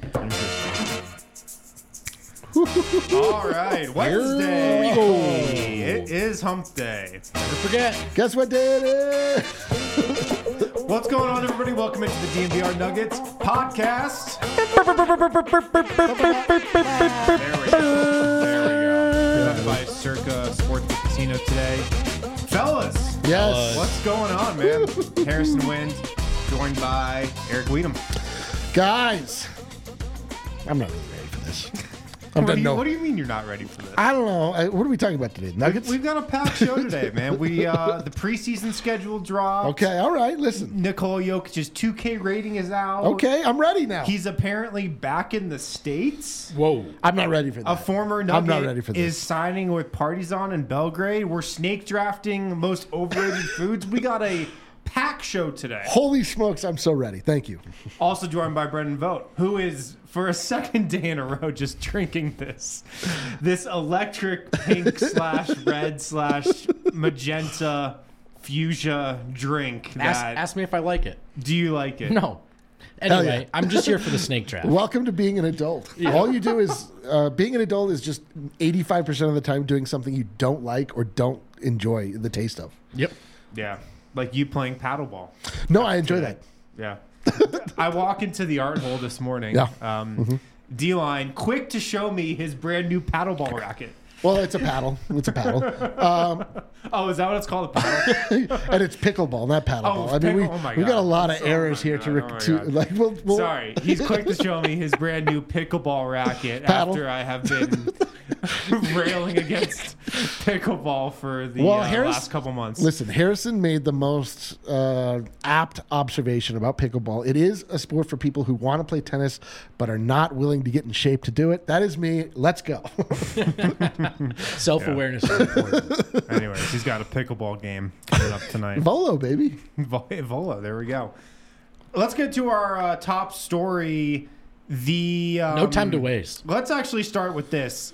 All right, Wednesday. It is hump day. Never forget. Guess what day it is? What's going on, everybody? Welcome into the DNVR Nuggets podcast. There we go. Presented by Circa Sports Casino today. Fellas, Yes. what's going on, man? Harrison Wind, joined by Eric Weedham. Guys, I'm not really ready for this. What do you mean you're not ready for this? I don't know. What are we talking about today? Nuggets? We've got a packed show today, man. The preseason schedule dropped. Okay, all right. Listen. Nikola Jokic's 2K rating is out. Okay, I'm ready now. He's apparently back in the States. Whoa. I'm not ready for that. A former Nugget I'm not ready for this. is signing with Partizan in Belgrade. We're snake drafting most overrated foods. We got a pack show today. Holy smokes, I'm so ready. Thank you. Also joined by Brendan Vogt, who is, for a second day in a row, just drinking this electric pink / red / magenta fuchsia drink. Ask me if I like it. Do you like it? No. Hell Anyway, yeah. I'm just here for the snake draft. Welcome to being an adult. All you do is, being an adult is just 85% of the time doing something you don't like or don't enjoy the taste of. Yep. Yeah. Like you playing paddleball. No, I enjoy that. Yeah. I walk into the art hole this morning. Yeah. D-Line, quick to show me his brand new paddleball racket. Well, it's a paddle. It's a paddle. Oh, is that what it's called? A paddle? And it's pickleball, not paddleball. I mean, oh my we got a God. lot of Oh errors my here God. to Oh my like. We'll Sorry. He's quick to show me his brand new pickleball racket Paddle. after I have been railing against pickleball for the last couple months. Listen, Harrison made the most apt observation about pickleball. It is a sport for people who want to play tennis but are not willing to get in shape to do it. That is me. Let's go. Self-awareness is important. Anyways, he's got a pickleball game coming up tonight. Volo, baby. Volo, there we go. Let's get to our top story. No time to waste. Let's actually start with this.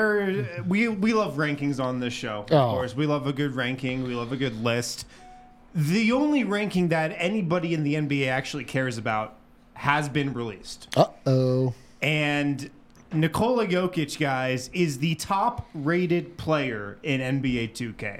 We love rankings on this show. Of course, we love a good ranking. We love a good list. The only ranking that anybody in the NBA actually cares about has been released. Uh-oh. And Nikola Jokic, guys, is the top-rated player in NBA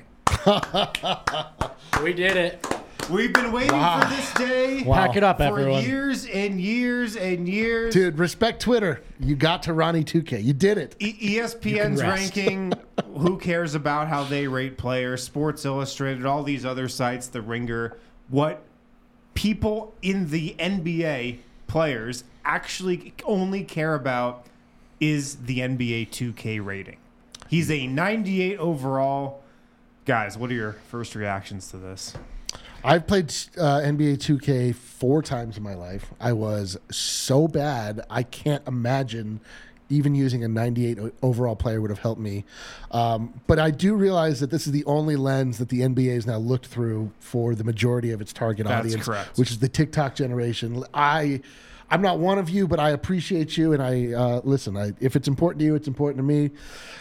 2K. We did it. We've been waiting for this day. Wow. Pack it up, For everyone. years and years and years. Dude, respect Twitter. You got to Ronnie 2K. You did it. ESPN's rest. ranking, who cares about how they rate players, Sports Illustrated, all these other sites, The Ringer. What people in the NBA, players, actually only care about is the NBA 2K rating. He's a 98 overall. Guys, what are your first reactions to this? I've played NBA 2K 4 times in my life. I was so bad, I can't imagine even using a 98 overall player would have helped me. But I do realize that this is the only lens that the NBA has now looked through for the majority of its target That's audience, correct. which is the TikTok generation. I'm not one of you, but I appreciate you, and I listen. If it's important to you, it's important to me.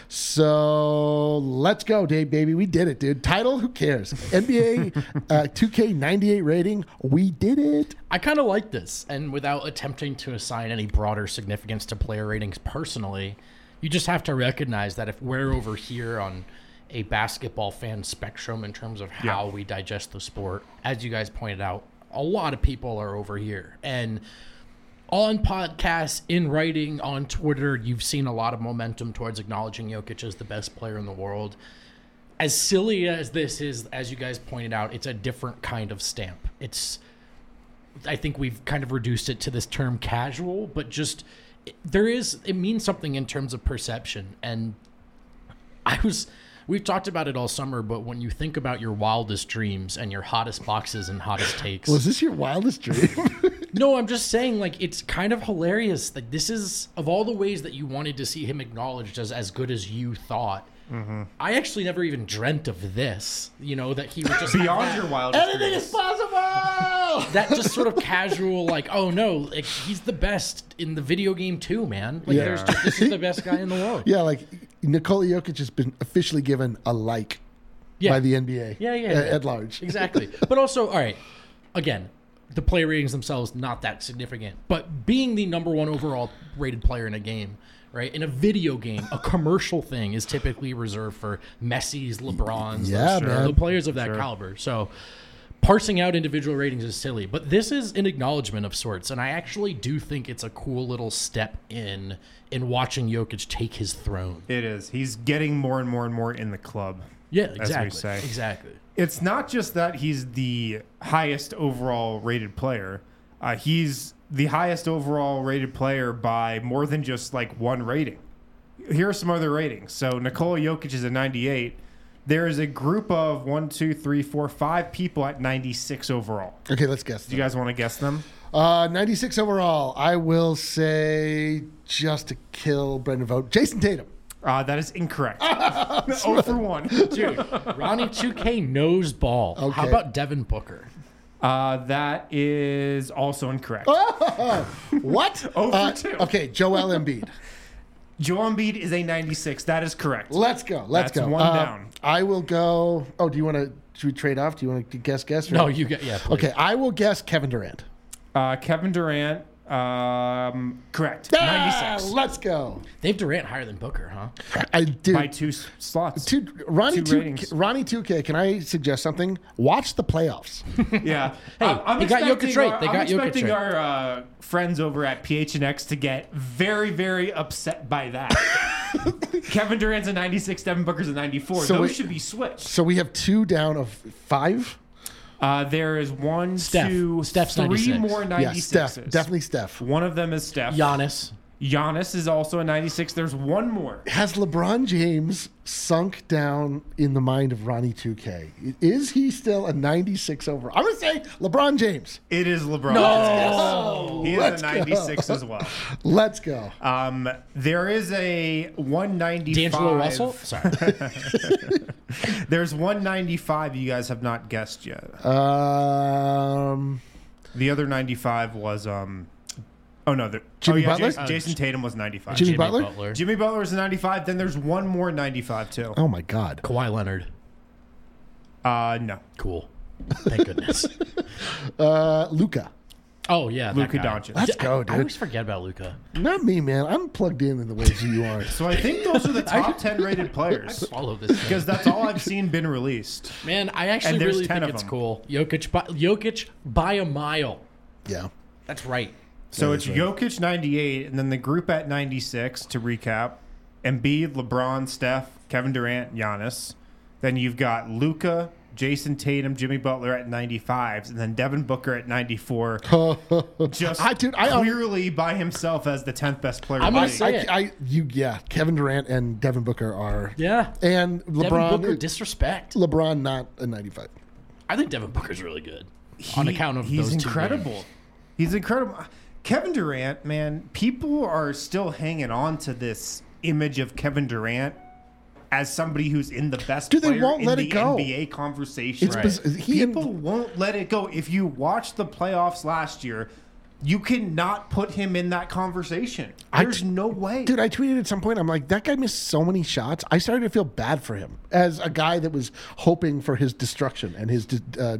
So let's go, Dave, baby. We did it, dude. Title, who cares? NBA 2K 98 rating, we did it. I kind of like this. And without attempting to assign any broader significance to player ratings personally, you just have to recognize that if we're over here on a basketball fan spectrum in terms of how we digest the sport, as you guys pointed out, a lot of people are over here. And on podcasts, in writing, on Twitter, you've seen a lot of momentum towards acknowledging Jokic as the best player in the world. As silly as this is, as you guys pointed out, it's a different kind of stamp. I think we've kind of reduced it to this term casual, but just it means something in terms of perception. And we've talked about it all summer, but when you think about your wildest dreams and your hottest boxes and hottest takes. Was this your wildest dream? No, I'm just saying, like, it's kind of hilarious. Like, this is, of all the ways that you wanted to see him acknowledged as good as you thought, I actually never even dreamt of this, that he would just Beyond your wildest Anything dreams. is possible. that just sort of casual, like, oh no, like, he's the best in the video game too, man. Like, Yeah. this is the best guy in the world. Yeah, like Nikola Jokic has been officially given a by the NBA. Yeah. At large. Exactly. But also, all right, again, the player ratings themselves not that significant, but being the number one overall rated player in a game, right? In a video game, a commercial thing is typically reserved for Messi's, LeBron's, Yeah, man. the players of that caliber. So parsing out individual ratings is silly, but this is an acknowledgement of sorts, and I actually do think it's a cool little step in watching Jokic take his throne. It is. He's getting more and more and more in the club. Yeah, we exactly. say. Exactly. It's not just that he's the highest overall rated player. He's the highest overall rated player by more than just like one rating. Here are some other ratings. So Nikola Jokic is a 98. There is a group of 5 people at 96 overall. Okay, let's guess. Do you guys want to guess them? 96 overall. I will say, just to kill Brendan Vogt, Jason Tatum. That is incorrect. 0 for 1. Dude, Ronnie 2K knows ball. Okay. How about Devin Booker? That is also incorrect. What? 0 for 2. Okay, Joel Embiid. Joel Embiid is a 96. That is correct. Let's go. Let's That's go. one down. I will go. Oh, do you want to? Should we trade off? Do you want to guess? Or? No, you get please. Okay, I will guess Kevin Durant. Kevin Durant, correct. Ah, 96. let's go. They have Durant higher than Booker, huh? I do. By 2 slots. Ronnie Two ratings. 2K. Can I suggest something? Watch the playoffs. Yeah. Hey, they got Jokic right. They got Jokic I'm expecting right. our friends over at PHNX to get very, very upset by that. Kevin Durant's a 96, Devin Booker's a 94. So Those should be switched. So we have 2 down of 5. There is 1, Steph. 2, Steph's 3 96. more 96s. Yeah, Steph. Definitely Steph. One of them is Steph. Giannis. Giannis is also a 96. There's one more. Has LeBron James sunk down in the mind of Ronnie 2K? Is he still a 96 overall? I'm going to say LeBron James. It is LeBron. No. He is Let's a 96 as well. Let's go. There is a 195. D'Angelo Russell? Sorry. There's 195 you guys have not guessed yet. Um, The other 95 was oh no, Jimmy Butler? Jason Tatum was 95. Jimmy Butler? Jimmy Butler is a 95. Then there's one more 95 too. Oh my God. Kawhi Leonard. No. Cool. Thank goodness. Luka. Oh, yeah. that Luka guy. Doncic. Let's go, I dude. always forget about Luka. Not me, man. I'm plugged in the ways you are. So I think those are the top 10 rated players Follow this thing. because that's all I've seen been released. Man, I actually And there's really 10 think of it's them. cool. Jokic by a mile. Yeah. That's right. So Yeah, it's that's right. Jokic 98, and then the group at 96 to recap: Embiid, LeBron, Steph, Kevin Durant, Giannis. Then you've got Luka, Jason Tatum, Jimmy Butler at 95s, and then Devin Booker at 94. Just I clearly by himself as the 10th best player. I'm in the gonna league. say it. Kevin Durant and Devin Booker are. Yeah. And Devin LeBron. Booker, disrespect. LeBron not a 95. I think Devin Booker's really good. On account of he's those 2 incredible. games. He's incredible. Kevin Durant, man, people are still hanging on to this image of Kevin Durant as somebody who's in the best Dude, they player won't in let the it go. NBA conversation. It's Right. People won't let it go. If you watch the playoffs last year, you cannot put him in that conversation. There's no way. Dude, I tweeted at some point, I'm like, that guy missed so many shots. I started to feel bad for him as a guy that was hoping for his destruction and his,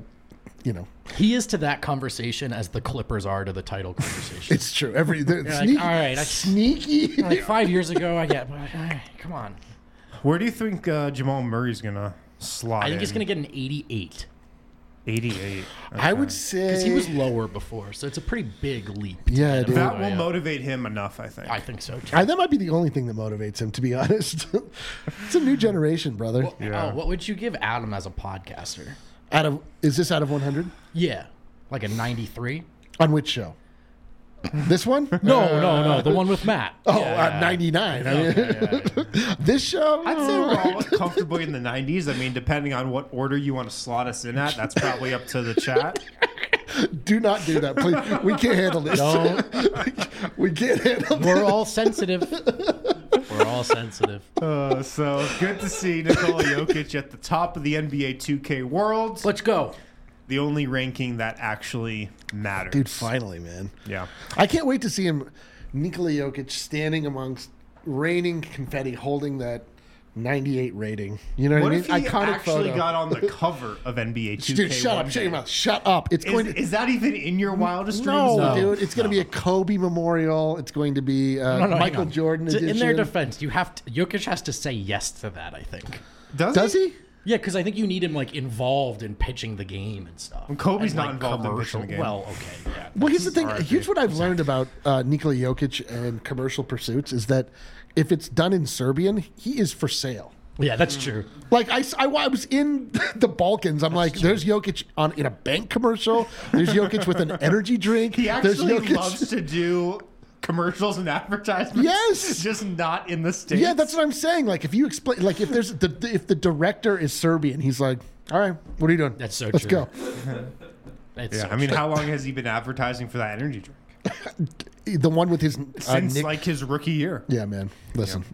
He is to that conversation as the Clippers are to the title conversation. It's true. like, all right, sneaky. like 5 years ago, I get. Come on. Where do you think Jamal Murray's gonna slot? I think in? he's going to get an 88 88. I would because say he was lower before, so it's a pretty big leap. Yeah, dude. That will motivate him enough, I think. I think so too. That might be the only thing that motivates him, to be honest. It's a new generation, brother. Yeah. Oh, what would you give Adam as a podcaster? Is this out of 100? Yeah, like a 93. On which show? This one? No, the one with Matt. Oh, Yeah. 99. I mean, this show? I'd say we're all comfortably in the 90s. I mean, depending on what order you want to slot us in at, that's probably up to the chat. Do not do that, please. We can't handle this. Don't. We can't handle this. We're all sensitive. We're all sensitive. So good to see Nikola Jokic at the top of the NBA 2K world. Let's go. The only ranking that actually matters. Dude, finally, man. Yeah. I can't wait to see him, Nikola Jokic, standing amongst raining confetti, holding that 98 rating. You know what, What I if mean? he Iconic actually photo. got on the cover of NBA 2K? Dude, shut one up! Shut your day? mouth! Shut up! It's going to. Is that even in your wildest dreams? No, dude, it's going to be a Kobe memorial. It's going to be hang Michael on. Jordan edition. In their defense, Jokic has to say yes to that, I think. Does he? Yeah, because I think you need him like involved in pitching the game and stuff. Well, Kobe's And, not like, involved in commercial- pitching the game. Well, okay, yeah. Well, here's the thing. RIP. Here's what I've learned about Nikola Jokic and commercial pursuits is that if it's done in Serbian, he is for sale. Yeah, that's true. Like I was in the Balkans. I'm like, there's Jokic in a bank commercial. There's Jokic with an energy drink. He There's actually Jokic. loves to do commercials and advertisements. Yes. just not in the States. Yeah, that's what I'm saying. Like if you explain, like if there's if the director is Serbian, he's like, all right, what are you doing? That's so Let's true. go. It's Yeah, so I mean, true. how long has he been advertising for that energy drink? The one with his Since Nick. like his rookie year. Yeah, man. Listen.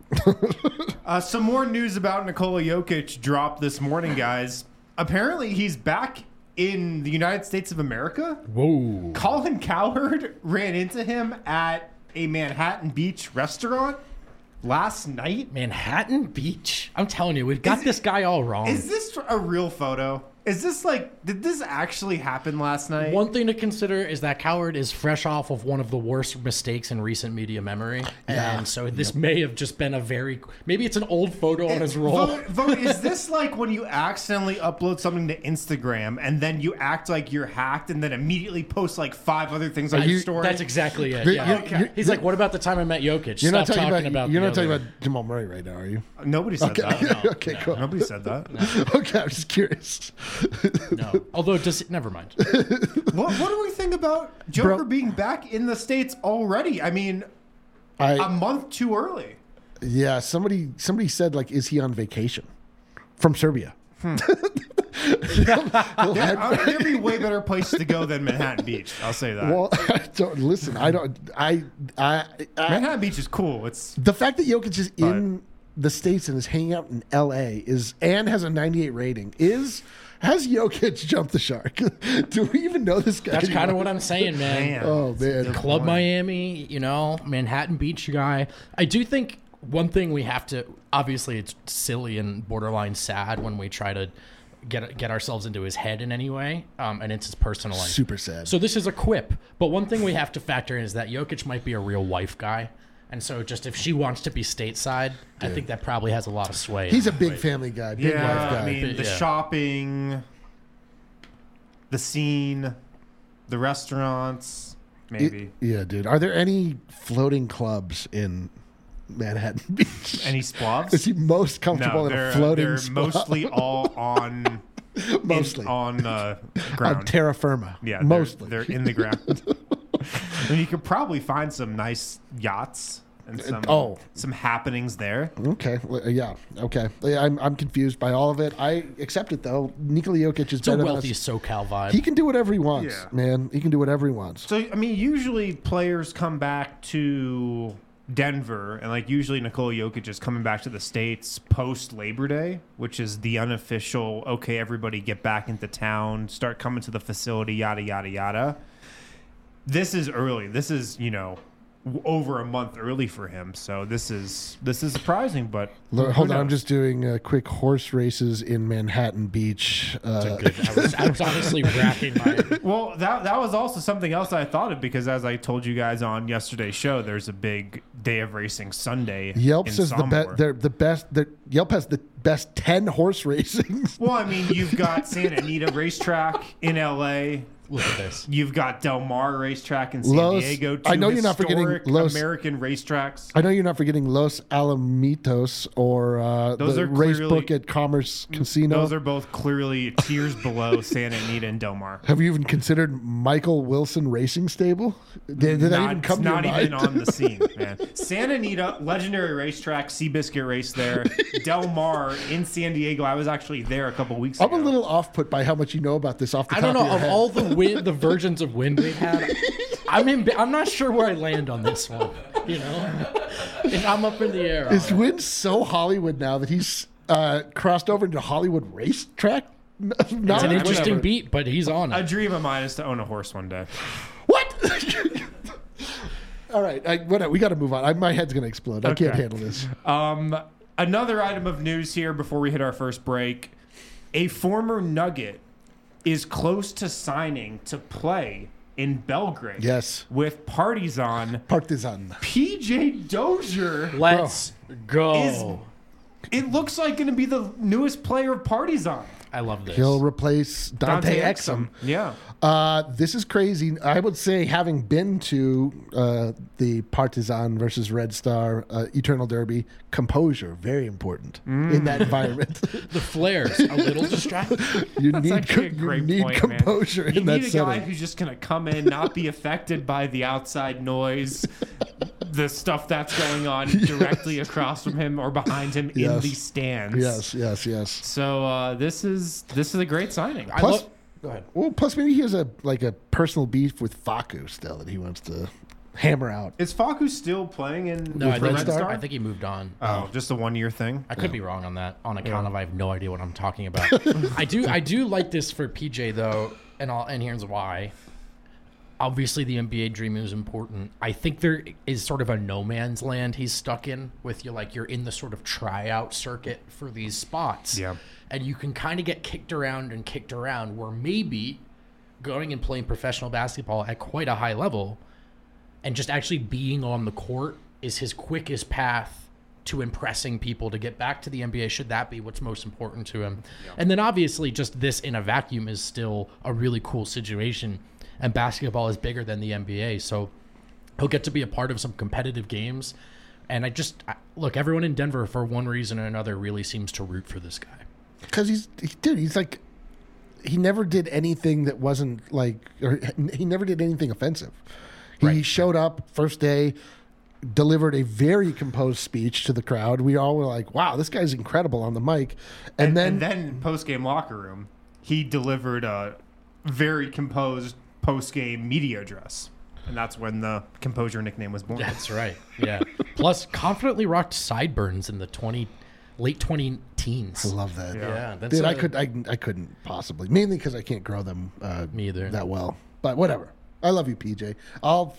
Some more news about Nikola Jokic dropped this morning, guys. Apparently, he's back in the United States of America. Whoa. Colin Cowherd ran into him at a Manhattan Beach restaurant last night. Manhattan Beach. I'm telling you, we've got this guy all wrong. Is this a real photo? Is this like, did this actually happen last night? One thing to consider is that Coward is fresh off of one of the worst mistakes in recent media memory. Yeah. And so this may have just been maybe it's an old photo on his roll. Is this like when you accidentally upload something to Instagram and then you act like you're hacked and then immediately post like 5 other things on your story? That's exactly it. The- Yeah. you- He's like, what about the time I met Jokic? You're not Stop talking about the other- about Jamal Murray right now, are you? Nobody said that. Okay, cool. Nobody said that. Okay, I'm just curious. No. Although, never mind. What do we think about Joker Bro. being back in the States already? I mean, a month too early. Yeah, somebody said like, is he on vacation from Serbia? There'd be way better places to go than Manhattan Beach. I'll say that. Well, listen. Manhattan Beach is cool. It's The fact that Jokic is in the States and is hanging out in LA and has a 98 rating has Jokic jumped the shark? Do we even know this guy? That's kind of what I'm saying, man. man. Oh man. Club Miami, Manhattan Beach guy. I do think one thing we have to, obviously it's silly and borderline sad when we try to get ourselves into his head in any way, and it's his personal life. Super sad. So this is a quip, but one thing we have to factor in is that Jokic might be a real wife guy. And so just if she wants to be stateside, I think that probably has a lot of sway. He's a big family guy, big life guy. I mean, the Yeah. shopping, the scene, the restaurants, maybe. Yeah, dude. Are there any floating clubs in Manhattan Beach? Any splavs? Is he most comfortable in a floating they're splav? mostly all on Mostly. on on ground. terra firma. Yeah, mostly. they're in the ground. And you could probably find some nice yachts and some happenings there. Okay. Well, yeah. Okay. Yeah, I'm confused by all of it. I accept it though. Nikola Jokic is It's a better wealthy than us. SoCal vibe. He can do whatever he wants, Yeah. man. He can do whatever he wants. So I mean, usually players come back to Denver, and like usually Nikola Jokic is coming back to the States post Labor Day, which is the unofficial. Okay, everybody get back into town, start coming to the facility, yada yada yada. This is early. This is over a month early for him. So this is surprising, but Hold who on, I'm knows? just doing quick horse races in Manhattan Beach. I was honestly racking my. Well, that was also something else I thought of because as I told you guys on yesterday's show, there's a big day of racing Sunday. Yelp in says the best. Yelp has the best 10 horse racings. Well, I mean, you've got Santa Anita Racetrack in LA. Look at this. You've got Del Mar Racetrack in San Los- Diego. Two I know you're not forgetting historic Los- American racetracks. I know you're not forgetting Los Alamitos or Those the are race clearly- book at Commerce Casino. Those are both clearly tiers below Santa Anita and Del Mar. Have you even considered Michael Wilson Racing Stable? Did that even come to your not mind? even on the scene, man. Santa Anita, legendary racetrack, Seabiscuit race there. Del Mar in San Diego. I was actually there a couple weeks ago. I'm a little off put by how much you know about this off the I top don't know of your of head. all the versions of wind we've had. I'm not sure where I land on this one. And I'm up in the air. Is Wynn so Hollywood now that he's crossed over into Hollywood racetrack? It's an Not interesting whatever. beat, but he's on A it. dream of mine is to own a horse one day. what? All right, we got to move on. My head's gonna explode. I can't Okay. handle this. Another item of news here before we hit our first break. A former Nugget is close to signing to play in Belgrade. Yes. With Partizan. PJ Dozier. Let's go. It looks like going to be the newest player of Partizan. I love this. He'll replace Dante Exum. Yeah. This is crazy. I would say, having been to the Partizan versus Red Star Eternal Derby, composure, very important in that environment. The flares, a little distracting. You That's need, actually a great point, composure man. in that You need a guy setting. who's just going to come in, not be affected by the outside noise, the stuff that's going on directly across from him or behind him in Yes. the stands. Yes. So this is a great signing. Plus, Go ahead. well, plus maybe he has a personal beef with Faku still that he wants to hammer out. Is Faku still playing in No, I for think, Red Star? I think he moved on. Oh, just a 1 year thing. I could be wrong on that, on account of I have no idea what I'm talking about. I do like this for PJ though, and here's why. Obviously, the NBA dream is important. I think there is sort of a no man's land he's stuck in with you, like you're in the sort of tryout circuit for these spots. Yeah. And you can kind of get kicked around, where maybe going and playing professional basketball at quite a high level and just actually being on the court is his quickest path to impressing people to get back to the NBA, should that be what's most important to him. Yeah. And then obviously just this in a vacuum is still a really cool situation, and basketball is bigger than the NBA, so he'll get to be a part of some competitive games. And look, everyone in Denver, for one reason or another, really seems to root for this guy. Because he's like, he never did anything that wasn't like, or he never did anything offensive. He showed up first day, delivered a very composed speech to the crowd. We all were like, wow, this guy's incredible on the mic. And then post-game locker room, he delivered a very composed post-game media address. And that's when the composure nickname was born. That's right. Yeah. Plus, confidently rocked sideburns in the late 20-teens. I love that. Yeah. That's Dude, I couldn't possibly. Mainly because I can't grow them me either. that well. But whatever. I love you, PJ. I'll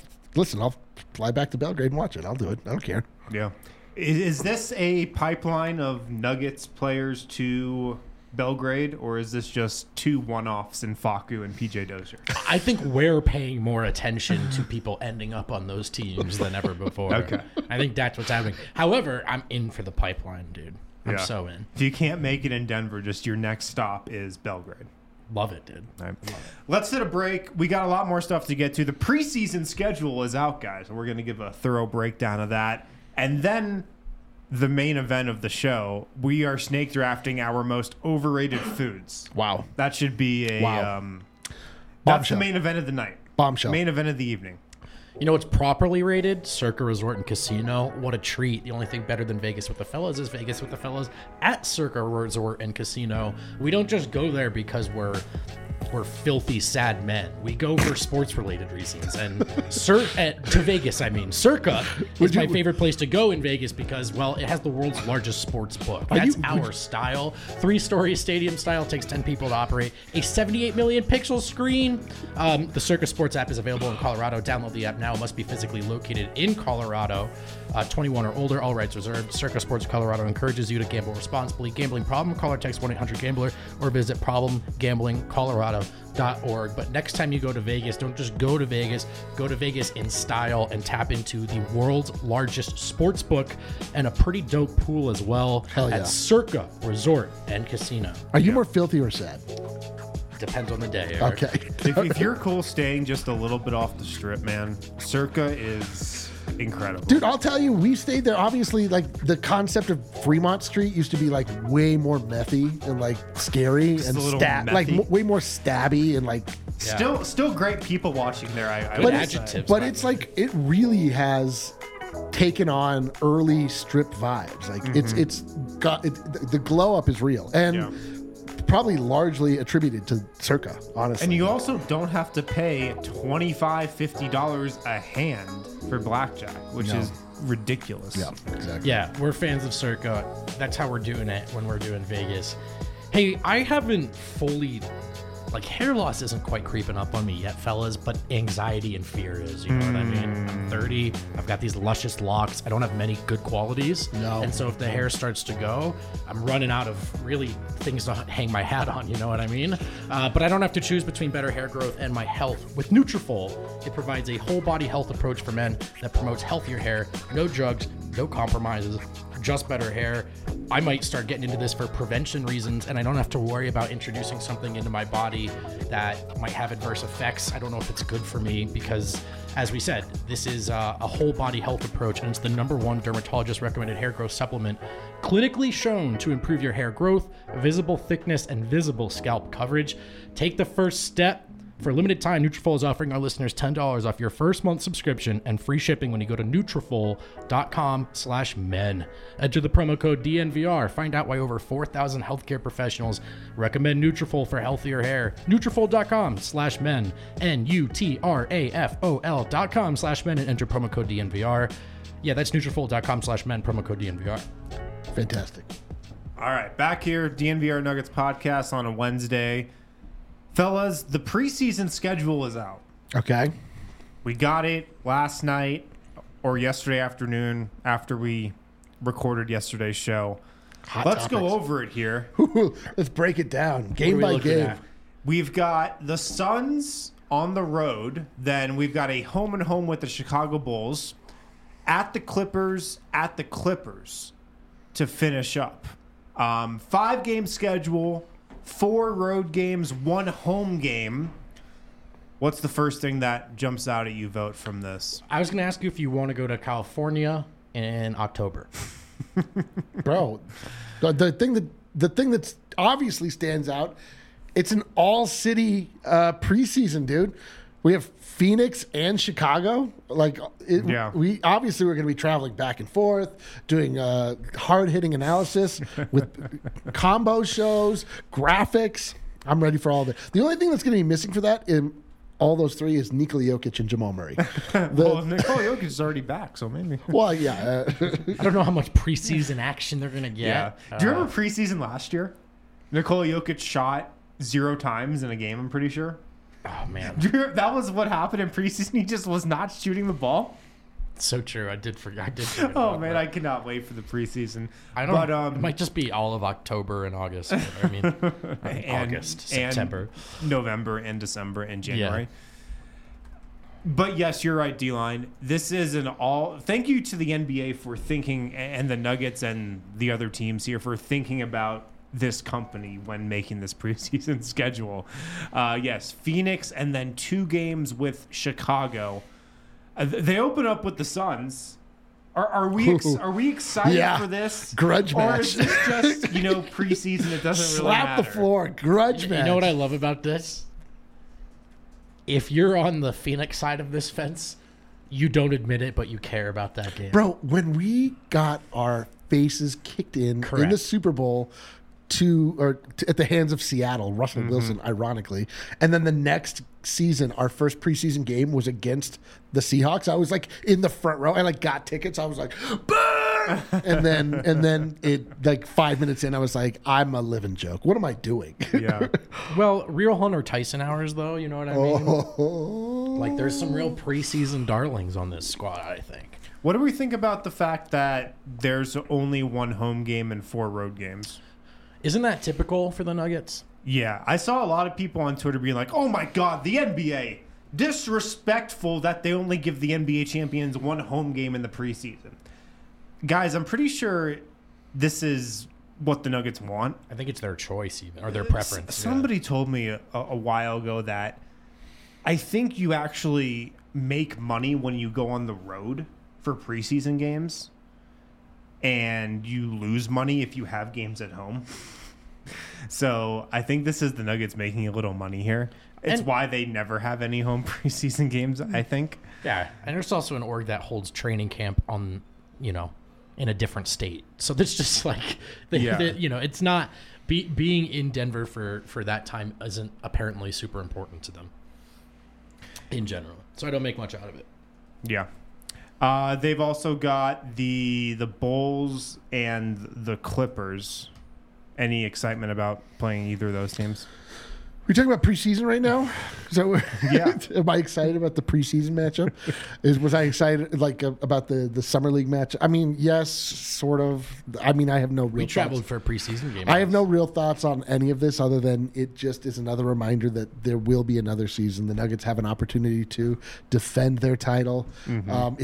fly back to Belgrade and watch it. I'll do it. I don't care. Yeah. Is this a pipeline of Nuggets players to Belgrade, or is this just two one-offs in Faku and PJ Dozier? I think we're paying more attention to people ending up on those teams than ever before. Okay. I think that's what's happening. However, I'm in for the pipeline, dude. I'm so in. If you can't make it in Denver, just your next stop is Belgrade. Love it, dude. All right. Let's hit a break. We got a lot more stuff to get to. The preseason schedule is out, guys, and we're going to give a thorough breakdown of that. And then the main event of the show, we are snake drafting our most overrated foods. Wow. That should be a that's Bombshell. the main event of the night. Bombshell. Main event of the evening. You know what's properly rated? Circa Resort and Casino. What a treat. The only thing better than Vegas with the Fellas is Vegas with the Fellas at Circa Resort and Casino. We don't just go there because we're filthy, sad men. We go for sports-related reasons. And to Vegas, I mean. Circa is my favorite place to go in Vegas because, well, it has the world's largest sports book. That's our style. 3-story stadium style, takes 10 people to operate. A 78 million pixel screen. The Circa Sports app is available in Colorado. Download the app now. It must be physically located in Colorado. 21 or older, all rights reserved. Circa Sports Colorado encourages you to gamble responsibly. Gambling problem? Call or text 1-800-GAMBLER or visit problemgamblingcolorado.org. But next time you go to Vegas, don't just go to Vegas. Go to Vegas in style and tap into the world's largest sports book and a pretty dope pool as well. Hell yeah. At Circa Resort and Casino. Are you more filthy or sad? Depends on the day, Eric. Okay. If you're cool staying just a little bit off the strip, man, Circa is incredible. Dude, I'll tell you, we stayed there. Obviously, like, the concept of Fremont Street used to be like way more methy and like scary Just and a little like methy. way more stabby and like. Still great people watching there. I Good would adjectives. say. But it's like it really has taken on early strip vibes. Like it's got the glow up is real and probably largely attributed to Circa, honestly. And you also don't have to pay $25-50 a hand for blackjack, which is ridiculous. Yeah, exactly. Yeah, we're fans of Circa. That's how we're doing it when we're doing Vegas. Hey, I haven't fully like hair loss isn't quite creeping up on me yet, fellas, but anxiety and fear is, you know what I mean? I'm 30, I've got these luscious locks, I don't have many good qualities. No. And so if the hair starts to go, I'm running out of really things to hang my hat on, you know what I mean? But I don't have to choose between better hair growth and my health. With Nutrafol, it provides a whole body health approach for men that promotes healthier hair, no drugs, no compromises, just better hair. I might start getting into this for prevention reasons, and I don't have to worry about introducing something into my body that might have adverse effects. I don't know if it's good for me because, as we said, this is a whole body health approach, and it's the #1 dermatologist recommended hair growth supplement, clinically shown to improve your hair growth, visible thickness, and visible scalp coverage. Take the first step. For a limited time, Nutrafol is offering our listeners $10 off your first month subscription and free shipping when you go to Nutrafol.com/men. Enter the promo code DNVR. Find out why over 4,000 healthcare professionals recommend Nutrafol for healthier hair. Nutrafol.com/men. Nutrafol.com/men and enter promo code DNVR. Yeah, that's Nutrafol.com/men, promo code DNVR. Fantastic. All right, back here, DNVR Nuggets podcast on a Wednesday. Fellas, the preseason schedule is out. Okay. We got it last night or yesterday afternoon after we recorded yesterday's show. Let's go over it here. Let's break it down game What are we by looking game. at? We've got the Suns on the road. Then we've got a home and home with the Chicago Bulls. At the Clippers to finish up. 5-game schedule. 4 road games, 1 home game. What's the first thing that jumps out at you, Vote, from this? I was going to ask you if you want to go to California in October. Bro, the thing that obviously stands out, it's an all-city preseason, dude. We have Phoenix and Chicago. Yeah. We obviously we're going to be traveling back and forth, doing hard-hitting analysis with combo shows, graphics. I'm ready for all of it. The only thing that's going to be missing for that in all those 3 is Nikola Jokic and Jamal Murray. Well, Nikola Jokic is already back, so maybe. Well, yeah. I don't know how much preseason action they're going to get. Do you remember preseason last year? Nikola Jokic shot 0 times in a game, I'm pretty sure. Oh, man. That was what happened in preseason. He just was not shooting the ball. So true. I did forget. Oh, man, I cannot wait for the preseason. I don't. But, it might just be all of October and August. I mean, August, September, and November, and December, and January. Yeah. But yes, you're right, D-Line. This is an all. Thank you to the NBA for thinking, and the Nuggets and the other teams here for thinking about this company when making this preseason schedule. Yes, Phoenix, and then 2 games with Chicago. They open up with the Suns. Are we excited for this? Grudge match. Or is this just preseason? It doesn't really Slap matter. the floor. Grudge match. You know what I love about this? If you're on the Phoenix side of this fence, you don't admit it, but you care about that game. Bro, when we got our faces kicked in Correct. the Super Bowl at the hands of Seattle, Russell Wilson, ironically, and then the next season, our first preseason game was against the Seahawks. I was in the front row. I got tickets. I was like, burn! and then it 5 minutes in, I was like, I'm a living joke. What am I doing? Yeah. Well, real Hunter Tyson hours, though. You know what I mean? Oh. There's some real preseason darlings on this squad, I think. What do we think about the fact that there's only 1 home game and 4 road games? Isn't that typical for the Nuggets? Yeah, I saw a lot of people on Twitter being like, "Oh my God, the NBA disrespectful that they only give the NBA champions 1 home game in the preseason." Guys, I'm pretty sure this is what the Nuggets want. I think it's their choice, even, or their preference. Somebody told me a while ago that I think you actually make money when you go on the road for preseason games, and you lose money if you have games at home. So I think this is the Nuggets making a little money here. It's why they never have any home preseason games, I think. Yeah, and there's also an org that holds training camp on, in a different state. So that's just it's not being in Denver for that time isn't apparently super important to them in general. So I don't make much out of it. Yeah. They've also got the Bulls and the Clippers. Any excitement about playing either of those teams? We're talking about preseason right now. So Yeah. am I excited about the preseason matchup? Was I excited about the summer league match? I mean, yes, sort of. I mean, I have no real. We thoughts. traveled for a preseason game. I have no real thoughts on any of this other than it just is another reminder that there will be another season. The Nuggets have an opportunity to defend their title. Mm-hmm.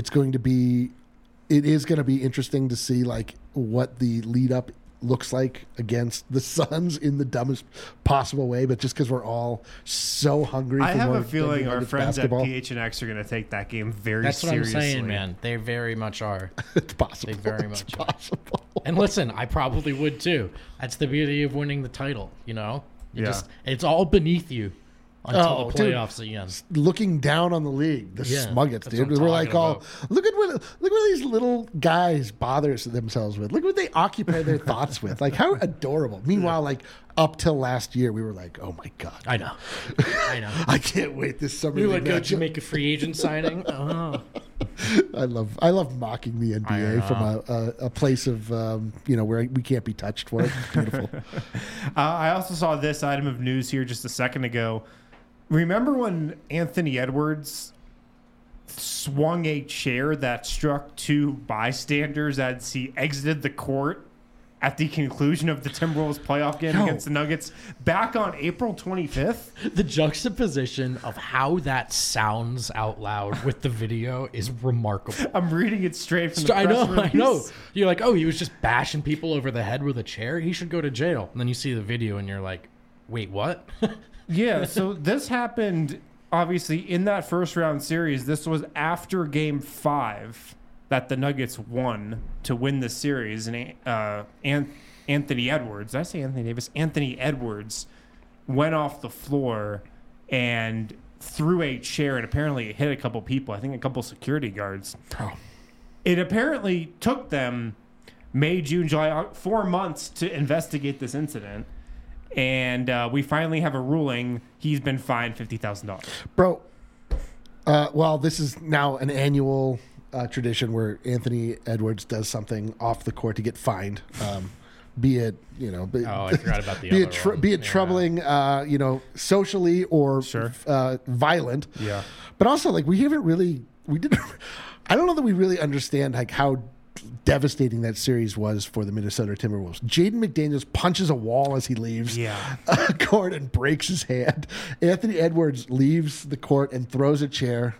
It is going to be interesting to see like what the lead up looks like against the Suns in the dumbest possible way, but just because we're all so hungry. I for have more a feeling our Nuggets friends basketball. at PHNX are going to take that game very That's what seriously. I'm saying, man. They very much are. It's possible. They very It's much are. possible. And listen, I probably would too. That's the beauty of winning the title, you know? Yeah. It's all beneath you until Oh, the dude. playoffs again. Looking down on the league, the Yeah, Smuggets, that's dude. what I'm We're like, talking look what these little guys bother themselves with. Look what they occupy their thoughts with. Like, how adorable. Meanwhile, like up till last year, we were like, oh my god, I know. I can't wait this summer. We league would go matchup. to make a free agent signing. Oh. I love mocking the NBA from a place of where we can't be touched for it. It's beautiful. I also saw this item of news here just a second ago. Remember when Anthony Edwards swung a chair that struck two bystanders as he exited the court at the conclusion of the Timberwolves playoff game against the Nuggets back on April 25th? The juxtaposition of how that sounds out loud with the video is remarkable. I'm reading it straight from the press I release. know. You're like, oh, he was just bashing people over the head with a chair. He should go to jail. And then you see the video and you're like, wait, what? Yeah, so this happened, obviously, in that first round series. This was after Game 5 that the Nuggets won to win the series. And Anthony Edwards, did I say Anthony Davis? Anthony Edwards went off the floor and threw a chair, and apparently it hit a couple people, I think a couple security guards. Oh. It apparently took them May, June, July, 4 months to investigate this incident. And we finally have a ruling. He's been fined $50,000. Bro, well, this is now an annual tradition where Anthony Edwards does something off the court to get fined. Be it, Oh, I forgot about the be other one. be it Yeah. troubling, socially or Sure. violent. Yeah. But also, like, we didn't. I don't know that we really understand like how devastating that series was for the Minnesota Timberwolves. Jaden McDaniels punches a wall as he leaves Yeah. court and breaks his hand. Anthony Edwards leaves the court and throws a chair.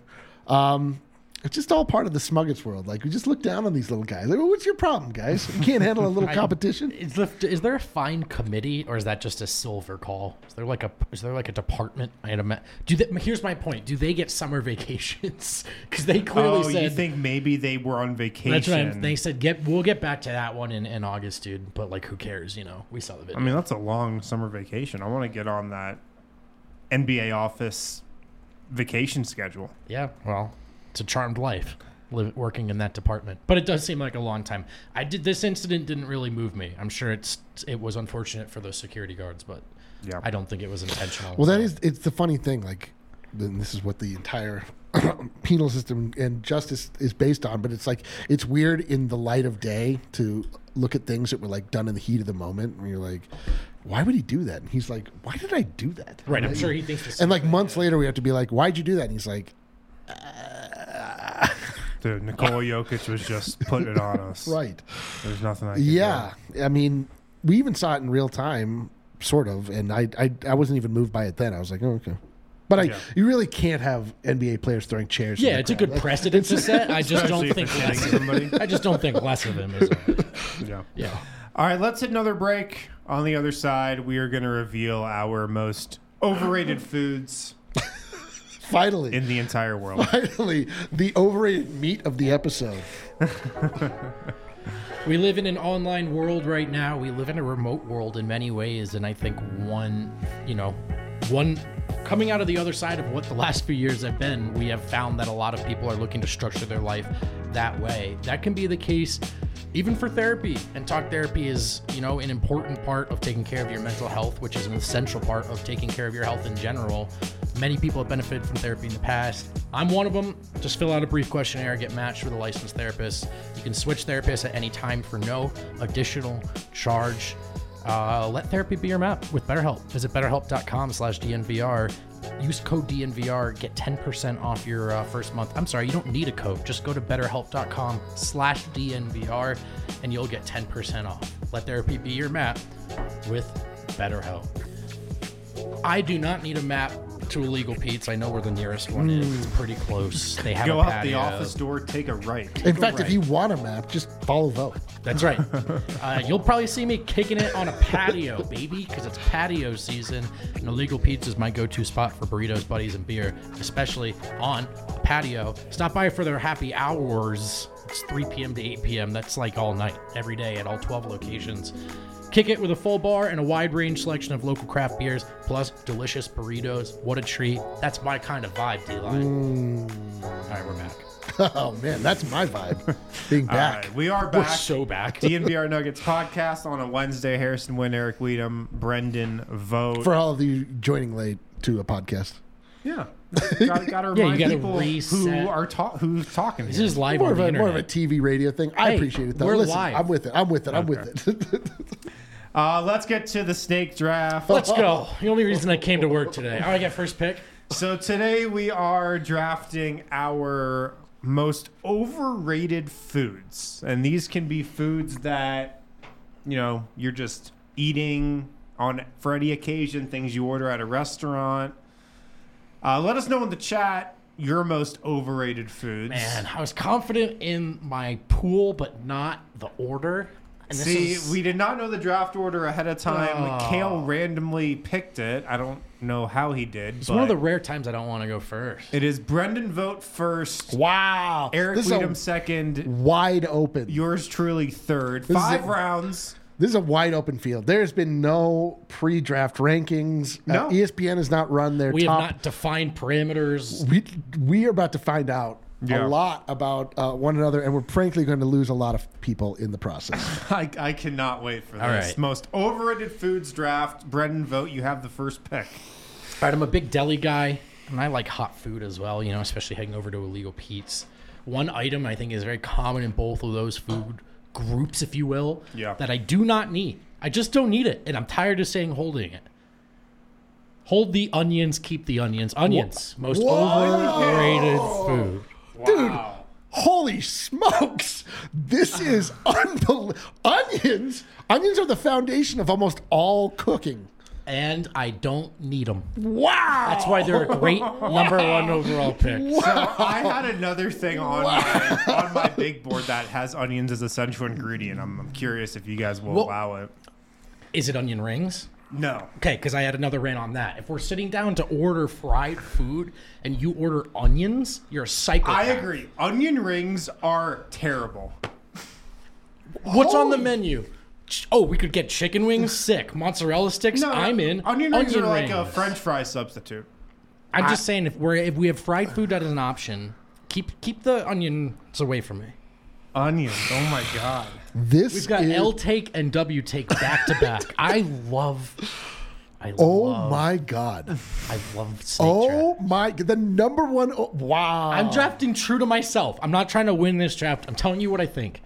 It's just all part of the Smuggets world. Like, we just look down on these little guys. Like, well, what's your problem, guys? You can't handle a little competition? Is there a fine committee, or is that just a silver call? Is there like a department? Here's my point. Do they get summer vacations? Because they clearly said. You think maybe they were on vacation? That's what they said. We'll get back to that one in August, dude. But like, who cares? We saw the video. I mean, that's a long summer vacation. I want to get on that NBA office vacation schedule. Yeah, well, it's a charmed life working in that department. But it does seem like a long time. This incident didn't really move me. I'm sure it was unfortunate for those security guards, but Yeah. I don't think it was intentional. Well, it's the funny thing. Like, then this is what the entire penal system and justice is based on. But it's like, it's weird in the light of day to look at things that were like done in the heat of the moment. And you're like, why would he do that? And he's like, why did I do that? right. I'm sure he thinks the same And like thing. months later, we have to be like, why'd you do that? And he's like, Dude, Nikola Jokic was just putting it on us. right. There's nothing I can do. Yeah. I mean, we even saw it in real time, sort of. And I wasn't even moved by it then. I was like, oh, okay. But Yeah. you really can't have NBA players throwing chairs. in Yeah, the it's a crowd. good precedent to set. I just don't Especially think if it's less. hitting somebody. I just don't think less of him is. Yeah. Yeah. All right, let's hit another break. On the other side, we are going to reveal our most overrated foods Finally. in the entire world. Finally, the overrated meat of the episode. We live in an online world right now. We live in a remote world in many ways, and I think one coming out of the other side of what the last few years have been, we have found that a lot of people are looking to structure their life that way. That can be the case even for therapy, and talk therapy is, an important part of taking care of your mental health, which is an essential part of taking care of your health in general. Many people have benefited from therapy in the past. I'm one of them. Just fill out a brief questionnaire, get matched with a licensed therapist. You can switch therapists at any time for no additional charge. Let therapy be your map with BetterHelp. Visit betterhelp.com/DNVR. Use code DNVR. Get 10% off your first month. I'm sorry, you don't need a code. Just go to betterhelp.com/DNVR and you'll get 10% off. Let therapy be your map with BetterHelp. I do not need a map to Illegal Pete's. I know where the nearest one is. It's pretty close. They have Go a out patio. the office door, take a right. In fact, if you want a map, just follow Vote. That's right. You'll probably see me kicking it on a patio, baby, because it's patio season. And Illegal Pete's is my go-to spot for burritos, buddies, and beer, especially on a patio. Stop by for their happy hours. It's 3 p.m. to 8 p.m. That's like all night, every day at all 12 locations. Kick it with a full bar and a wide range selection of local craft beers, plus delicious burritos. What a treat. That's my kind of vibe, D-Line. All right, we're back. Oh, man, that's my vibe. Being All back. right, we are We're back. so back. DNVR Nuggets podcast on a Wednesday. Harrison Wynn, Eric Weedham, Brendan Vogt. For all of you joining late to a podcast. Yeah. Got to remind gotta people reset. who's talking This here. is live More on of, the a, more of a internet. TV radio thing. I Hey, appreciate it, though. we're Listen, live. I'm with it. I'm with it. Let's get to the snake draft. Let's go. The only reason I came to work today. I get first pick. So today we are drafting our most overrated foods. And these can be foods that, you're just eating for any occasion, things you order at a restaurant. Let us know in the chat your most overrated foods. Man, I was confident in my pool, but not the order. And this We did not know the draft order ahead of time. Oh. Kale randomly picked it. I don't know how he did. It's but one of the rare times I don't want to go first. It is Brendan Vogt first. Wow. Eric This is Weedham a second. wide open. Yours truly third. This is 5 it. rounds. This is a wide open field. There's been no pre-draft rankings. No. ESPN has not run their We top. have not defined parameters. We are about to find out Yeah. a lot about one another, and we're frankly going to lose a lot of people in the process. I cannot wait for this. All right. Most overrated foods draft. Brendan Vogt, you have the first pick. All right, I'm a big deli guy, and I like hot food as well, especially heading over to Illegal Pete's. One item I think is very common in both of those food groups, if you will, that I do not need. I just don't need it, and I'm tired of saying holding it. Hold the onions, keep the onions. Onions, most overrated food. Dude, holy smokes. This is unbelievable. Onions are the foundation of almost all cooking. And I don't need them. Wow. That's why they're a great number one overall pick. So I had another thing on my big board that has onions as essential ingredient. I'm curious if you guys will allow it. Is it onion rings? No. Okay, because I had another rant on that. If we're sitting down to order fried food and you order onions, you're a psychopath. I agree. Onion rings are terrible. What's on the menu? Oh, we could get chicken wings. Sick. Mozzarella sticks. I'm in. Onion rings are like a French fry substitute. I'm just saying, if we have fried food as an option, keep the onions away from me. Onions. Oh my god. We've got L take and W take back to back. I love my god. I love snake draft. The number one. Wow. I'm drafting true to myself. I'm not trying to win this draft. I'm telling you what I think.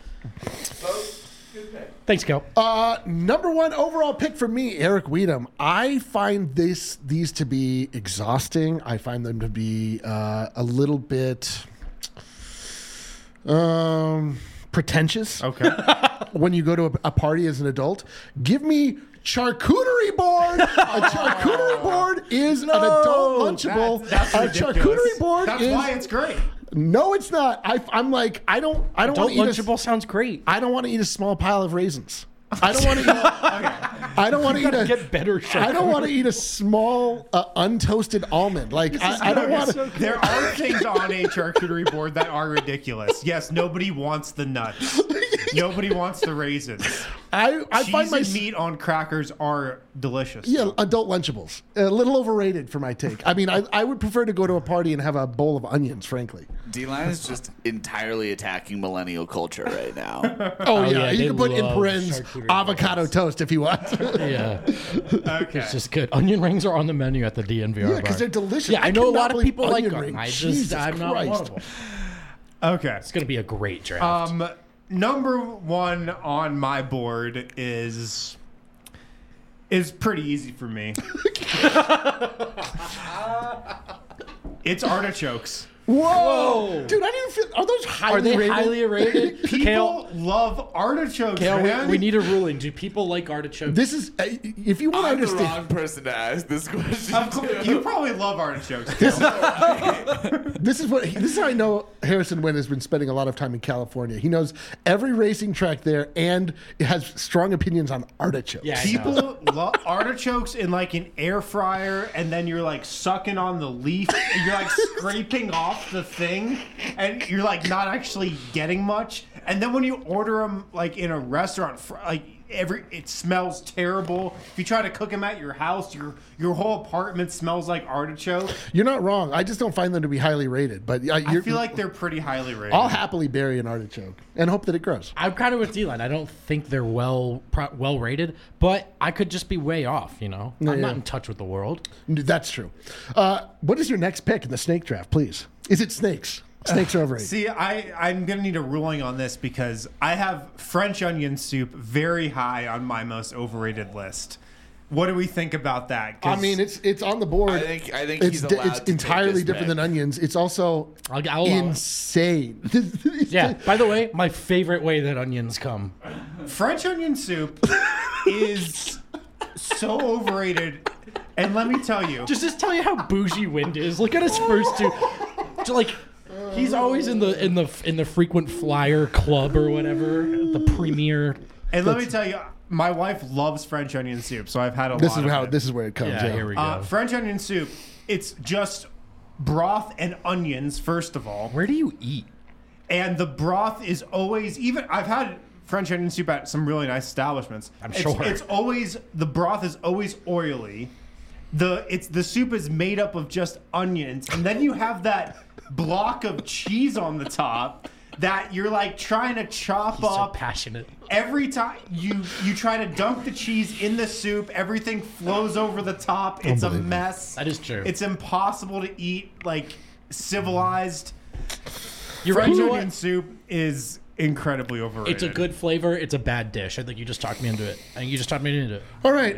Thanks, Kel. Number one overall pick for me, Eric Weedham. I find these to be exhausting. I find them to be a little bit pretentious. Okay. When you go to a party as an adult, give me charcuterie board. A charcuterie board is an adult lunchable. That's a ridiculous. charcuterie board That's is why it's great. no, it's not. I'm like I don't Adult want to eat Lunchable sounds great. I don't want to eat a small pile of raisins. I don't want to eat. I don't want to eat a. Get better. I don't want to eat a small untoasted almond. Like I don't want to. There are things on a charcuterie board that are ridiculous. Yes, nobody wants the nuts. Nobody wants the raisins. I Cheese find my and meat on crackers are delicious. yeah adult Lunchables a little overrated for my take. I mean, I would prefer to go to a party and have a bowl of onions. Frankly. D-Line is just entirely attacking millennial culture right now. Oh, yeah, yeah, you they can put in love parens charcuterie avocado toast if you want. Yeah, Okay. it's just good. Onion rings are on the menu at the DNVR Yeah, bar. because they're delicious. Yeah, I know a cannot lot of believe people like onion them. rings. I'm not one Christ. of them. Okay. It's gonna be a great draft. Number one on my board is is pretty easy for me. It's artichokes. Whoa. Dude, I didn't feel. Are those highly Are they rated? highly rated? People love artichokes, Kale, man. we need a ruling. Do people like artichokes? This is. If you want to I'm the understand. wrong person to ask this question. Of course, to. you probably love artichokes. Kale. This is how I know Harrison Wynn has been spending a lot of time in California. He knows every racing track there and has strong opinions on artichokes. Yeah, I know. People love artichokes in like an air fryer, and then you're like sucking on the leaf, and you're like scraping off the thing, and you're like not actually getting much. And then when you order them like in a restaurant, like it smells terrible. If you try to cook them at your house, your whole apartment smells like artichoke. You're not wrong. I just don't find them to be highly rated. But I feel like they're pretty highly rated. I'll happily bury an artichoke and hope that it grows. I'm kind of with D-Line. I don't think they're well rated, but I could just be way off, you know? I'm yeah. not in touch with the world. That's true. What is your next pick in the snake draft, please? Is it snakes? Snakes are overrated. See, I'm going to need a ruling on this because I have French onion soup very high on my most overrated list. What do we think about that? 'Cause I mean, it's on the board. I think he's allowed it's to entirely take this different pick. than onions. It's also I'll allow it. insane. Yeah. By the way, my favorite way that onions come. French onion soup is so overrated. And let me tell you, Just tell you how bougie Wind is. Look at his first two. Like he's always in the frequent flyer club or whatever, the premier. and let me tell you, my wife loves French onion soup, so I've had a This lot is of how it. this is where it comes. Yeah, here we go. French onion soup, it's just broth and onions, first of all. Where do you eat? And the broth is always, even I've had French onion soup at some really nice establishments. I'm It's- sure. It's always, the broth is always oily. The soup is made up of just onions, and then you have that block of cheese on the top that you're like trying to chop He's so up. passionate. Every time you try to dunk the cheese in the soup, everything flows over the top. It's a Unbelievable. mess. That is true. It's impossible to eat like civilized. You're right. French You know onion what? soup is incredibly overrated. It's a good flavor. It's a bad dish. I think you just talked me into it. I think you just talked me into it. All right.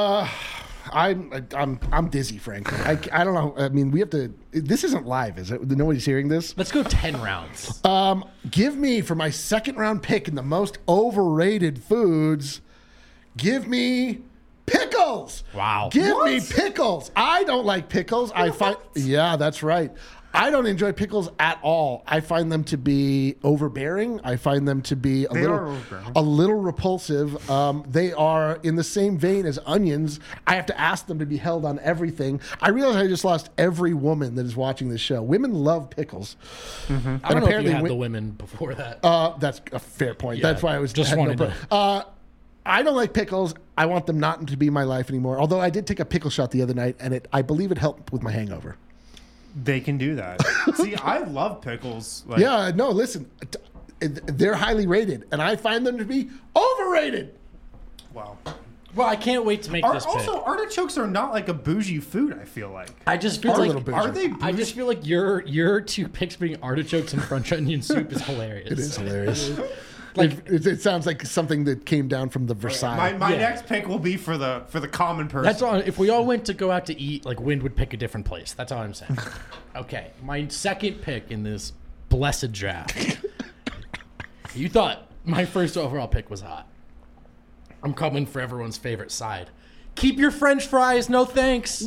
I'm dizzy, frankly. I don't know. I mean, we have to. This isn't live, is it? Nobody's hearing this. Let's go 10 rounds. Give me for my second round pick in the most overrated foods. Give me pickles. Wow. Give me pickles. I don't like pickles. I find. Yeah, that's right. I don't enjoy pickles at all. I find them to be overbearing. I find them to be They are overbearing. a little repulsive. They are in the same vein as onions. I have to ask them to be held on everything. I realize I just lost every woman that is watching this show. Women love pickles. I don't know if apparently you had wi- the women before that. That's a fair point. Yeah, That's why I was just had wanted pro- to- I don't like pickles. I want them not to be my life anymore. Although I did take a pickle shot the other night, and I believe it helped with my hangover. They can do that. See, I love pickles. Like, Yeah, no, listen, they're highly rated, and I find them to be overrated. Wow. Well, I can't wait to make this pick. Also, artichokes are not like a bougie food. I feel like. I just feel Are a like little bougie. Are they? I just feel like your two picks being artichokes and French onion soup is hilarious. It is hilarious. Like- it sounds like something that came down from the Versailles. My Yeah. next pick will be for the common person. That's all. If we all went to go out to eat, like Wind would pick a different place. That's all I'm saying. Okay, my second pick in this blessed draft. You thought my first overall pick was hot. I'm coming for everyone's favorite side. Keep your French fries, no thanks.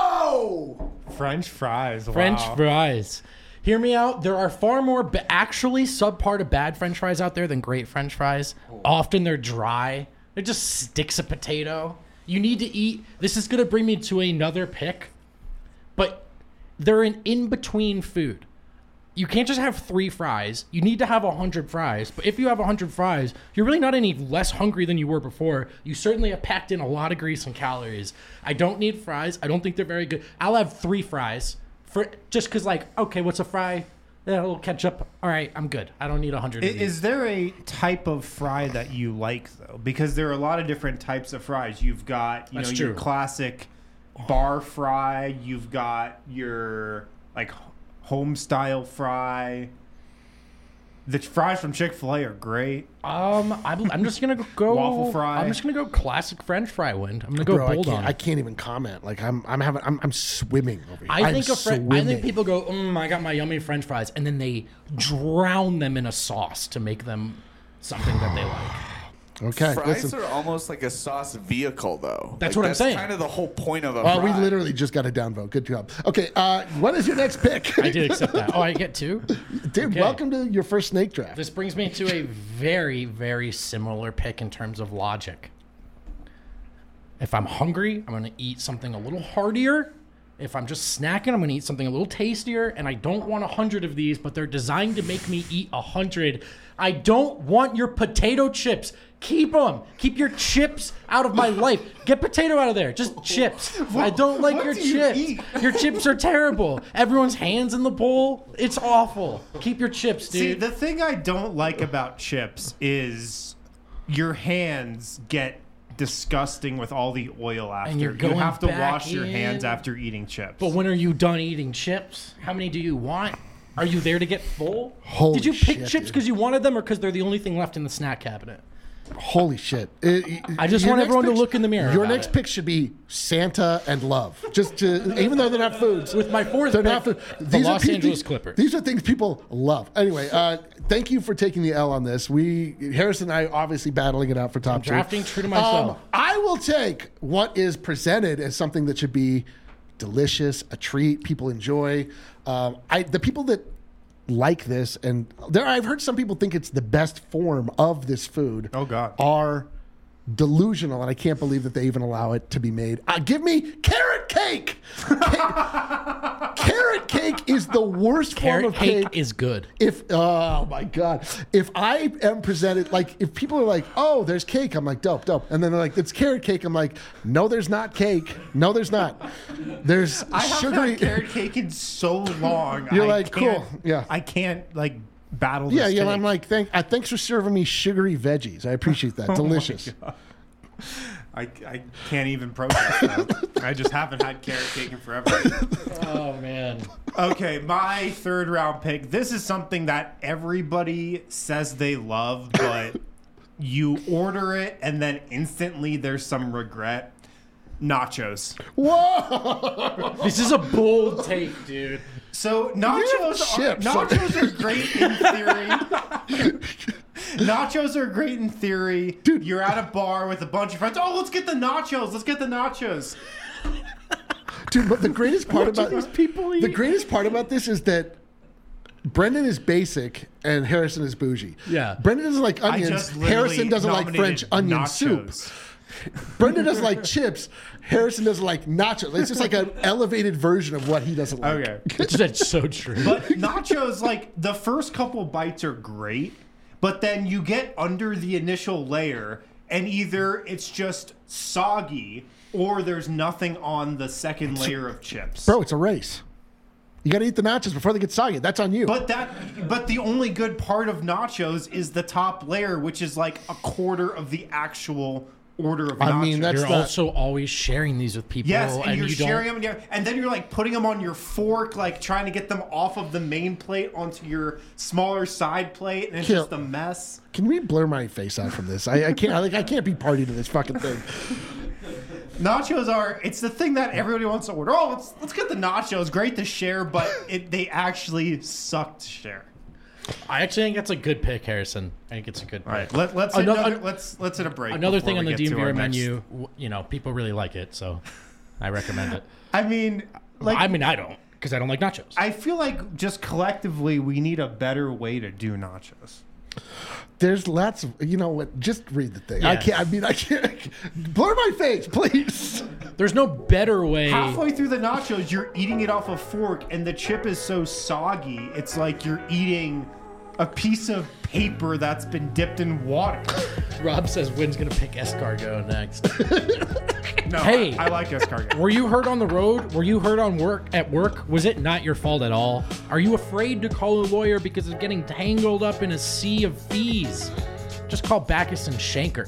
Whoa! French fries. French wow. fries. Hear me out. There are far more actually subpar to bad French fries out there than great French fries. Often they're dry. They're just sticks of potato. You need to eat. This is going to bring me to another pick, but they're an in-between food. You can't just have 3 fries. You need to have 100 fries. But if you have 100 fries, you're really not any less hungry than you were before. You certainly have packed in a lot of grease and calories. I don't need fries. I don't think they're very good. I'll have 3 fries for just because, like, okay, what's a fry? Yeah, a little ketchup. All right, I'm good. I don't need 100 of these. Is there a type of fry that you like though? Because there are a lot of different types of fries. You've got That's your true. classic bar fry. You've got your like home style fry. The fries from Chick-fil-A are great. I'm just gonna go Waffle fry. I'm just gonna go classic French fry wind. I'm gonna go Bro, bold on I it. can't even comment. Like I'm swimming over here. I think people go, I got my yummy French fries, and then they drown them in a sauce to make them something that they like. Okay, Fries listen. are almost like a sauce vehicle, though. That's what I'm saying. That's kind of the whole point of a Oh, fry. we literally just got a downvote. Good job. Okay, what is your next pick? I did accept that. Oh, I get two? Dude, Okay. welcome to your first snake draft. This brings me to a very, very similar pick in terms of logic. If I'm hungry, I'm going to eat something a little heartier. If I'm just snacking, I'm going to eat something a little tastier. And I don't want 100 of these, but they're designed to make me eat 100. I don't want your potato chips. Keep them. Keep your chips out of my life. Get potato out of there. Just chips. I don't like what your do you chips. eat? Your chips are terrible. Everyone's hands in the bowl. It's awful. Keep your chips, dude. See, the thing I don't like about chips is your hands get disgusting with all the oil after. you're You going have to back wash your hands in. after eating chips. But when are you done eating chips? How many do you want? Are you there to get full? Holy Did you pick shit, chips dude. because you wanted them or because they're the only thing left in the snack cabinet? Holy shit. I just Your want next everyone to pick- look in the mirror Your about next it. pick should be Santa and love. Just to, even though they're not foods. With my fourth they're pick, not food. the are Los pe- Angeles Clippers. These are things people love. Anyway, thank you for taking the L on this. Harrison and I obviously battling it out for top two. drafting true to myself. I will take what is presented as something that should be delicious, a treat, people enjoy. The people that like this, and I've heard some people think it's the best form of this food. Oh, God. Are delusional, and I can't believe that they even allow it to be made. Give me carrot cake. Carrot cake is the worst Carrot form of cake cake. is good. Oh my god! If I am presented like, if people are like, "Oh, there's cake," I'm like, "Dope, dope," and then they're like, "It's carrot cake," I'm like, "No, there's not cake. No, there's not. There's I haven't sugary." had carrot cake in so long. You're I like, can't- cool, yeah. I can't like battle this Yeah, yeah. cake. I'm like, thanks for serving me sugary veggies. I appreciate that. Delicious. I can't even protest that. I just haven't had carrot cake in forever. Oh, man. Okay, my third round pick. This is something that everybody says they love, but you order it and then instantly there's some regret. Nachos. Whoa! This is a bold take, dude. So have chips. nachos are great in theory. Nachos are great in theory. Dude. You're at a bar with a bunch of friends. Oh, let's get the nachos. Let's get the nachos. Dude, but the greatest part about these people eat? the greatest part about this is that Brendan is basic and Harrison is bougie. Yeah. Brendan doesn't like I onions. just literally Harrison doesn't like French nominated onion nachos. soup. Brendan doesn't like chips. Harrison doesn't like nachos. It's just like an elevated version of what he doesn't like. Okay. That's so true. But nachos, like, the first couple bites are great, but then you get under the initial layer, and either it's just soggy or there's nothing on the second layer of chips. Bro, it's a race. You got to eat the nachos before they get soggy. That's on you. But the only good part of nachos is the top layer, which is like a quarter of the actual order of nachos. I mean, that's You're not- also always sharing these with people. Yes, and you're you sharing don't. them, and then you're like putting them on your fork, like trying to get them off of the main plate onto your smaller side plate, and it's Kill. just a mess. Can we blur my face out from this? I can't. I can't be party to this fucking thing. Nachos it's the thing that everybody wants to order. Oh, let's get the nachos. Great to share, but they actually suck to share. I actually think that's a good pick, Harrison. I think it's a good pick. All right, let's hit Another- let's hit a break. Another before thing on we the get to our DMVR next- menu, people really like it, so I recommend it. I mean, like, I mean, I don't, because I don't like nachos. I feel like just collectively we need a better way to do nachos. There's lots of, you know what? Just read the thing. I Yes. can't. I mean, I can't. Blur my face, please. There's no better way. Halfway through the nachos, you're eating it off a fork, and the chip is so soggy. It's like you're eating a piece of paper that's been dipped in water. Rob says Wynn's going to pick escargot next. No, Hey. I like escargot. Were you hurt on the road? Were you hurt at work? Was it not your fault at all? Are you afraid to call a lawyer because of getting tangled up in a sea of fees? Just call Backus and Shanker.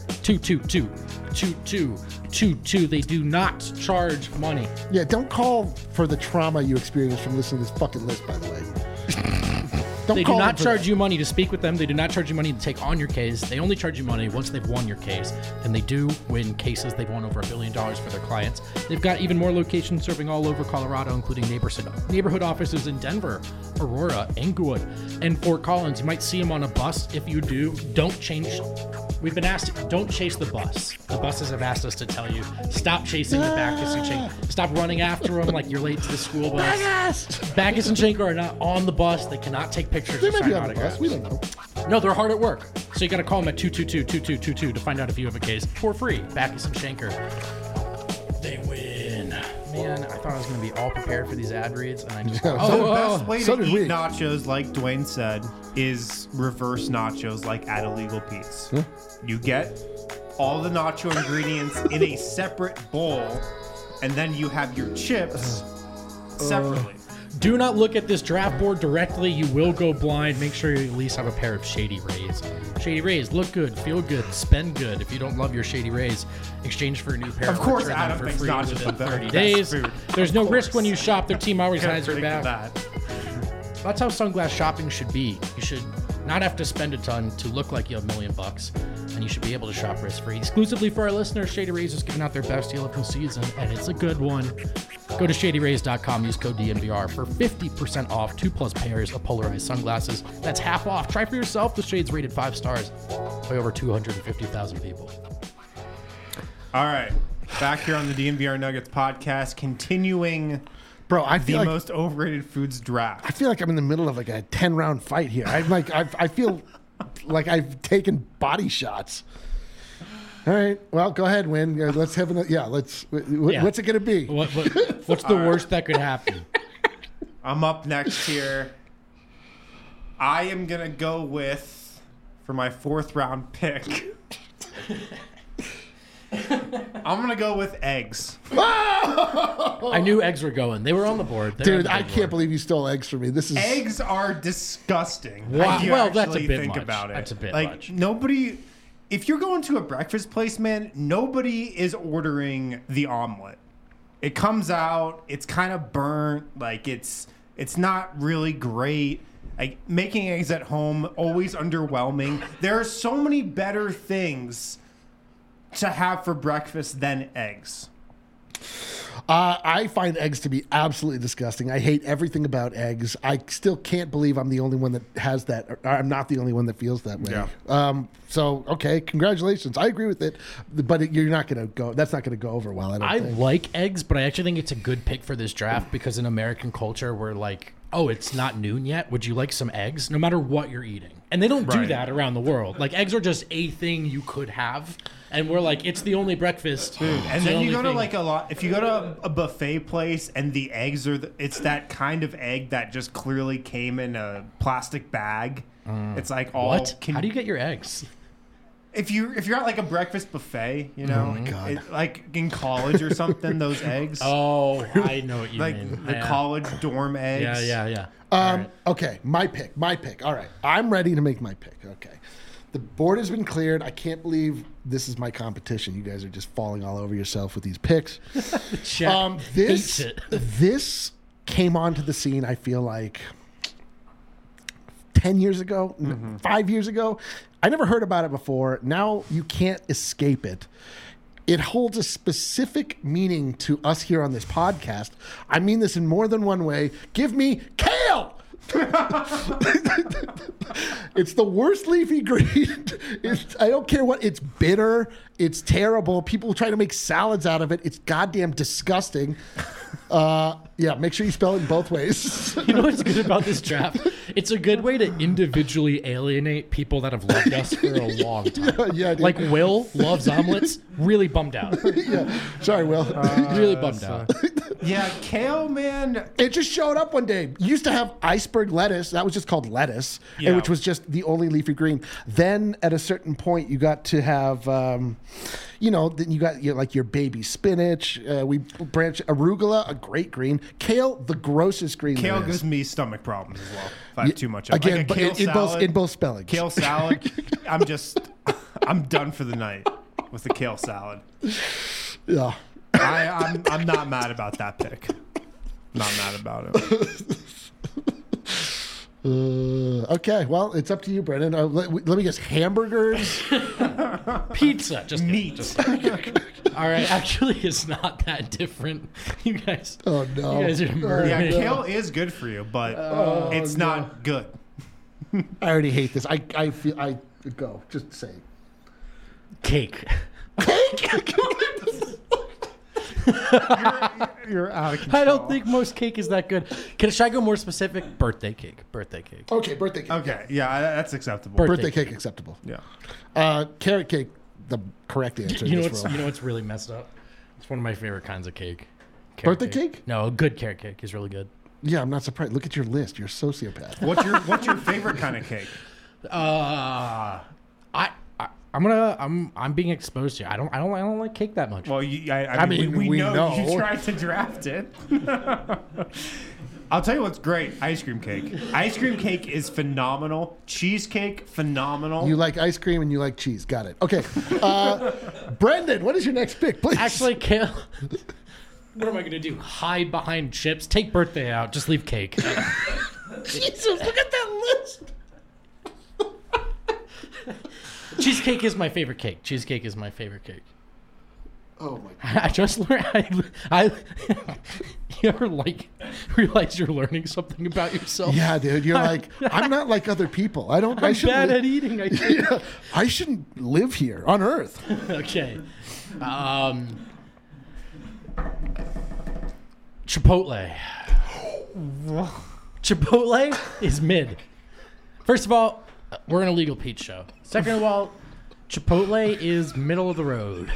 222-2222. They do not charge money. Yeah, don't call for the trauma you experienced from listening to this fucking list, by the way. They do call not them for charge that. you money to speak with them. They do not charge you money to take on your case. They only charge you money once they've won your case. And they do win cases. They've won over $1 billion for their clients. They've got even more locations serving all over Colorado, including neighborhood offices in Denver, Aurora, Englewood, and Fort Collins. You might see them on a bus. If you do, don't change. We've been asked, don't chase the bus. The buses have asked us to tell you, stop chasing the Bacchus and Schenker. Stop running after them like you're late to the school bus. Bacchus and Schenker are not on the bus. They cannot take pictures They or might sign be on the autographs. bus. We don't know. No, they're hard at work. So you got to call them at 222-2222 to find out if you have a case for free. Bacchus and Schenker. They win. Man, I thought I was going to be all prepared for these ad reads, and I just... The best way so to did eat we. nachos, like Dwayne said, is reverse nachos, like at Illegal Pete's. You get all the nacho ingredients in a separate bowl, and then you have your chips separately. Do not look at this draft board directly. You will go blind. Make sure you at least have a pair of Shady Rays. Shady Rays, look good, feel good, spend good. If you don't love your Shady Rays, exchange for a new pair. Of course, return them Adam for thinks free nachos within the 30 best days. food. There's no Of risk when course. you shop. Their team always Can't has your predict back. that. That's how sunglass shopping should be. You should not have to spend a ton to look like you have $1 million, and you should be able to shop risk-free. Exclusively for our listeners, Shady Rays is giving out their best deal of the season, and it's a good one. Go to ShadyRays.com, use code DNVR for 50% off 2+ pairs of polarized sunglasses. That's half off. Try for yourself. The Shades rated 5 stars by over 250,000 people. All right. Back here on the DNVR Nuggets podcast, continuing Bro, I the feel like most overrated foods I draft. feel like I'm in the middle of like a 10-round fight here. I feel like I've taken body shots. All right. Well, go ahead, Win. Let's have what's it going to be? What's the worst that could happen? I'm up next here. I am going to go with, for my 4th round pick, I'm going to go with eggs. I knew eggs were going. They were on the board. They're on Dude, the I big can't board. believe you stole eggs from me. This is Eggs are disgusting. Wow. If you Well, that's a actually bit think much. about it. That's a bit like, much. Nobody, if you're going to a breakfast place, man, nobody is ordering the omelet. It comes out, it's kind of burnt, like it's not really great. Like, making eggs at home, always underwhelming. There are so many better things to have for breakfast than eggs. I find eggs to be absolutely disgusting. I hate everything about eggs. I still can't believe I'm the only one that has that. Or I'm not the only one that feels that way. Yeah. So, okay, congratulations. I agree with it, but you're not going to go. That's not going to go over well. I don't I think. like eggs, but I actually think it's a good pick for this draft because in American culture, we're like, oh, it's not noon yet. Would you like some eggs? No matter what you're eating. And they don't do Right. that around the world. Like, eggs are just a thing you could have. And we're like, it's the only breakfast. And then you go to like if you go to a buffet place and the eggs are, it's that kind of egg that just clearly came in a plastic bag. It's like all. What? How do you get your eggs? If you're at like a breakfast buffet, you know, God. like in college or something, those eggs, Oh, I know what you like mean. the college dorm eggs. Yeah. All right. Okay, my pick. All right, I'm ready to make my pick. Okay. The board has been cleared. I can't believe this is my competition. You guys are just falling all over yourself with these picks. Chat This hates it. this came onto the scene, I feel like 10 years ago, 5 years ago. I never heard about it before. Now you can't escape it. It holds a specific meaning to us here on this podcast. I mean this in more than one way. Give me kale! It's the worst leafy green. I don't care what. It's bitter. It's terrible. People try to make salads out of it. It's goddamn disgusting. Yeah, make sure you spell it in both ways. You know what's good about this draft? It's a good way to individually alienate people that have loved us for a long time. Yeah, dude. Like Will loves omelets. Really bummed out. Yeah. Sorry, Will. Really bummed out. Yeah, kale, man. It just showed up one day. You used to have iceberg lettuce. That was just called lettuce, Yeah. and which was just the only leafy green. Then at a certain point, you got to have, then you got your baby spinach. We branch arugula, a great green. Kale, the grossest green. Kale there is. gives me stomach problems as well. If I have too much of it. Again, Like a but kale in salad, both spellings. Kale salad. I'm done for the night with the kale salad. Yeah. I'm not mad about that pick. Not mad about it. Okay, well, it's up to you, Brendan. Let me guess, hamburgers? Pizza. Just Meat. All right, actually, it's not that different. You guys. Oh, no. You guys are murdering Yeah, me. kale is good for you, but it's not good. I already hate this. I feel go. Just say it. Cake. You're out of control. I don't think most cake is that good. Should I go more specific? Birthday cake. Birthday cake. Okay, birthday cake. Okay, yeah, that's acceptable. Birthday cake acceptable. Yeah. Carrot cake, the correct answer. You know in this what's world. really messed up? It's one of my favorite kinds of cake. Birthday cake? No, a good carrot cake is really good. Yeah, I'm not surprised. Look at your list. You're a sociopath. What's your favorite kind of cake? I'm being exposed here. I don't like cake that much. Well, I mean, we know you tried to draft it. I'll tell you what's great: ice cream cake. Ice cream cake is phenomenal. Cheesecake, phenomenal. You like ice cream and you like cheese. Got it. Okay. Brendan, what is your next pick, please? Actually, kale. What am I gonna do? Hide behind chips? Take birthday out. Just leave cake. Jesus, look at that list. Cheesecake is my favorite cake. Cheesecake is my favorite cake. Oh my God. I just learned. You ever realize you're learning something about yourself? Yeah, dude. You're like, I'm not like other people. I I'm shouldn't bad li- at eating. Yeah, I shouldn't live here on Earth. Okay. Chipotle. Chipotle is mid. First of all, we're an illegal Pete show. Second of all, Chipotle is middle of the road.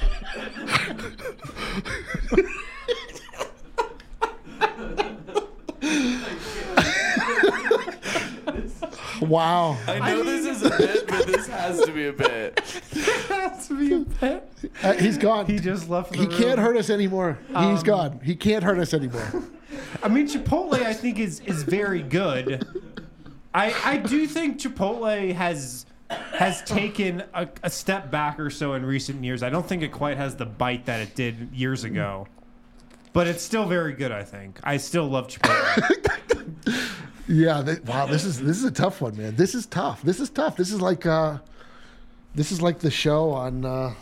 Wow. I know this is a bit, but this has to be a bit. has to be a pet. He's gone. He just left the He room. can't hurt us anymore. He's gone. He can't hurt us anymore. I mean, Chipotle, I think, is very good. I do think Chipotle has taken a step back or so in recent years. I don't think it quite has the bite that it did years ago. But it's still very good, I think. I still love Chipotle. Yeah. Wow. This is a tough one, man. This is tough. This is like the show on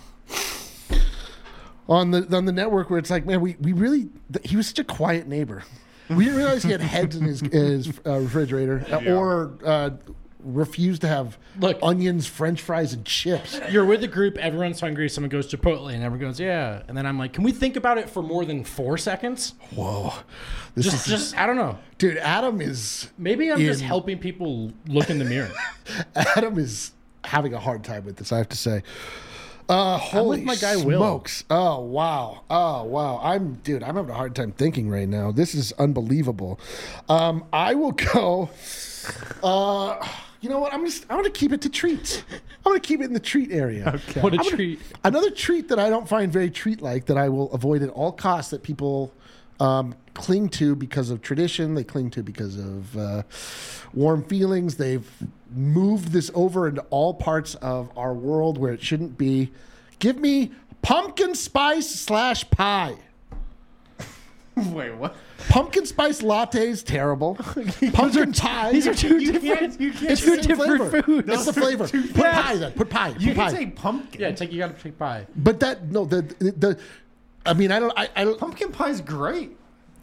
the network where it's like, man, we really he was such a quiet neighbor. We didn't realize he had heads in his refrigerator or refused to have onions, French fries, and chips. You're with a group, everyone's hungry, someone goes Chipotle, and everyone goes, yeah. And then I'm like, can we think about it for more than 4 seconds? Whoa. Just I don't know. Dude, Adam is... Maybe I'm just helping people look in the mirror. Adam is having a hard time with this, I have to say. Holy with my guy, Will. smokes. Oh, wow. I'm having a hard time thinking right now. This is unbelievable. I will go... you know what? I'm going to keep it to treats. I'm going to keep it in the treat area. Okay. What a treat. Another treat that I don't find very treat-like that I will avoid at all costs that people cling to because of tradition. They cling to because of warm feelings. They've moved this over into all parts of our world where it shouldn't be. Give me pumpkin spice / pie. Wait, what? Pumpkin spice lattes, terrible. Pumpkin pie. These are two You different. can't It's two the same different flavor. foods. It's the flavor. Put pie then. Put pie. You Put can pie. say pumpkin. Yeah, you got to take pie. But that no the I mean I don't Pumpkin pie's great.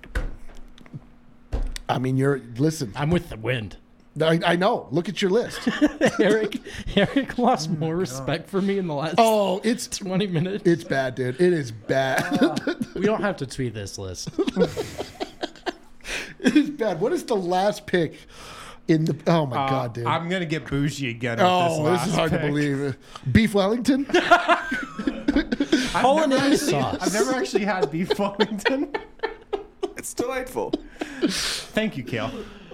I mean you're listen. I'm with the wind. I know. Look at your list. Eric lost more respect for me in the last Oh, it's 20 minutes. it's bad, dude. It is bad. We don't have to tweet this list. It is bad. What is the last pick in the? Oh my god, dude. I'm gonna get bougie again. With This is hard to believe. Beef Wellington. Hollandaise sauce. I've never actually had beef Wellington. It's delightful. Thank you, Kale.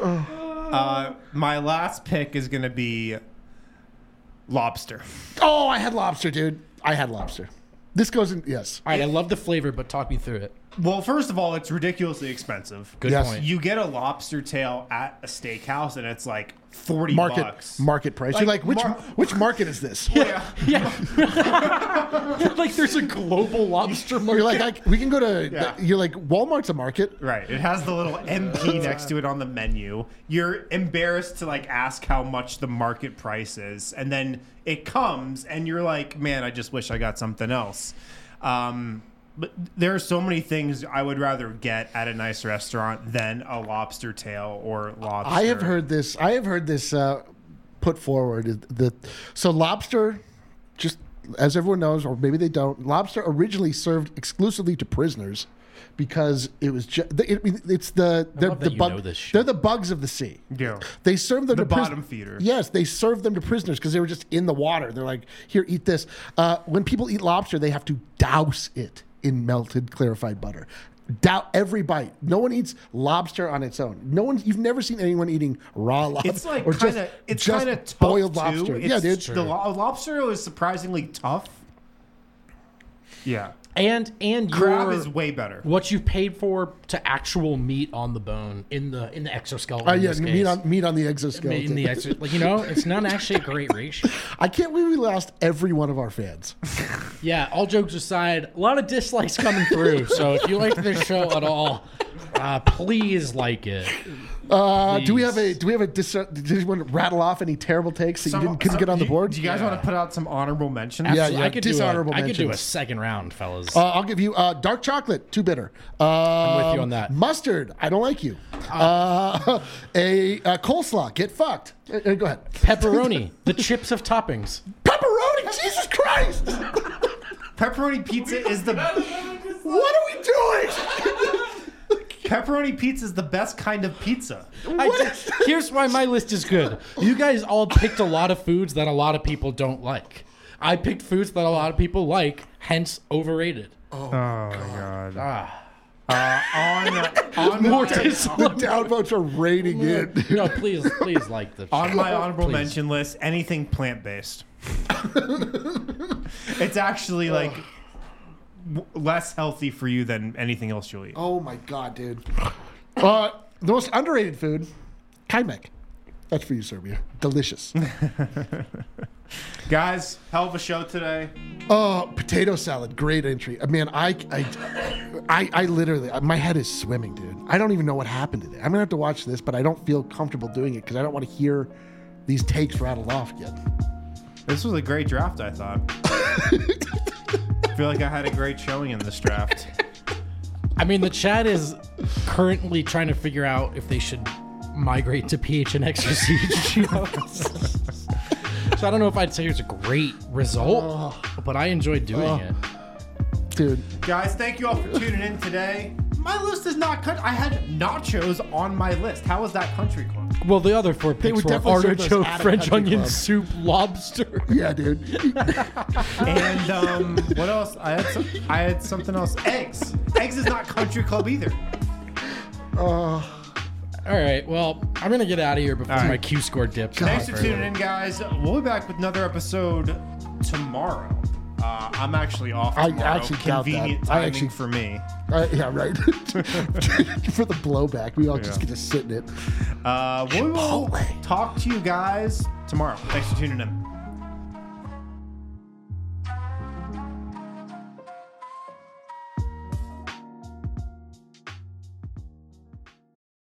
My last pick is gonna be lobster. Oh, I had lobster, dude. I had lobster. This goes in. Yes. All right, I love the flavor, but talk me through it. Well, first of all, it's ridiculously expensive. Good Yes. point. You get a lobster tail at a steakhouse, and it's like $40. Market price. Like, You're like, which market is this? Yeah. Like there's a global lobster market. You're like, we can go to. Yeah. You're like, Walmart's a market. Right. It has the little MP next to it on the menu. You're embarrassed to like ask how much the market price is, and then it comes, and you're like, man, I just wish I got something else. But there are so many things I would rather get at a nice restaurant than a lobster tail or lobster. I have heard this. Put forward so lobster, just as everyone knows, or maybe they don't. Lobster originally served exclusively to prisoners because it was it's the they're love the that you bug know this shit. they're the bugs of the sea. Yeah. They served them The to bottom feeder. Yes, they served them to prisoners because they were just in the water. They're like, here, eat this. When people eat lobster, they have to douse it in melted clarified butter. Every bite. No one eats lobster on its own. You've never seen anyone eating raw lobster. It's like or kind of tough boiled too. lobster. It's, Yeah, dude. The lobster is surprisingly tough. Yeah. and Crab your, is way better. what you paid for to actual meat on the bone in the exoskeleton. in Yeah, this meat case. on the exoskeleton. In the like it's not actually a great ratio. I can't believe we lost every one of our fans. Yeah, all jokes aside, a lot of dislikes coming through. So if you like this show at all, please like it. Do we have a? Did you want to rattle off any terrible takes that you couldn't get on the board? Do you guys want to put out some honorable mentions? Yeah, I could dishonorable do a mentions. second round, fellas. I'll give you dark chocolate, too bitter. I'm with you on that. Mustard, I don't like you. A coleslaw, get fucked. Go ahead. Pepperoni, the chips of toppings. Pepperoni, Jesus Christ! Pepperoni pizza is the What are we doing? pepperoni pizza is the best kind of pizza. Here's why my list is good. You guys all picked a lot of foods that a lot of people don't like. I picked foods that a lot of people like, hence overrated. Oh my god. On more The downvotes are raiding in. No, please like the On my honorable Please. mention list, anything plant-based. It's actually like less healthy for you than anything else you'll eat. Oh my god, dude. The most underrated food, kaimak. That's for you, Serbia. Delicious. Guys, hell of a show today. Potato salad, great entry. Man, I literally, my head is swimming, dude. I don't even know what happened today. I'm gonna have to watch this, but I don't feel comfortable doing it because I don't want to hear these takes rattled off yet. This was a great draft, I thought. I feel like I had a great showing in this draft. I mean, the chat is currently trying to figure out if they should migrate to PHNX or Siege. So I don't know if I'd say it's a great result, but I enjoyed doing it. Dude, Guys, thank you all for tuning in today. My list is not cut. I had nachos on my list. How was that country club? Well, the other four picks would were definitely serve those artichoke, at a French country onion club. soup, lobster. yeah, dude. And what else? I had something else. Eggs. Eggs is not country club either. All right, well, I'm going to get out of here before my Q score dips. Thanks for tuning in, guys. We'll be back with another episode tomorrow. I'm actually off I tomorrow. actually doubt that. Convenient I timing actually- for me. Yeah, right. For the blowback, we all just get to sit in it. We will Chipotle. talk to you guys tomorrow. Thanks for tuning in.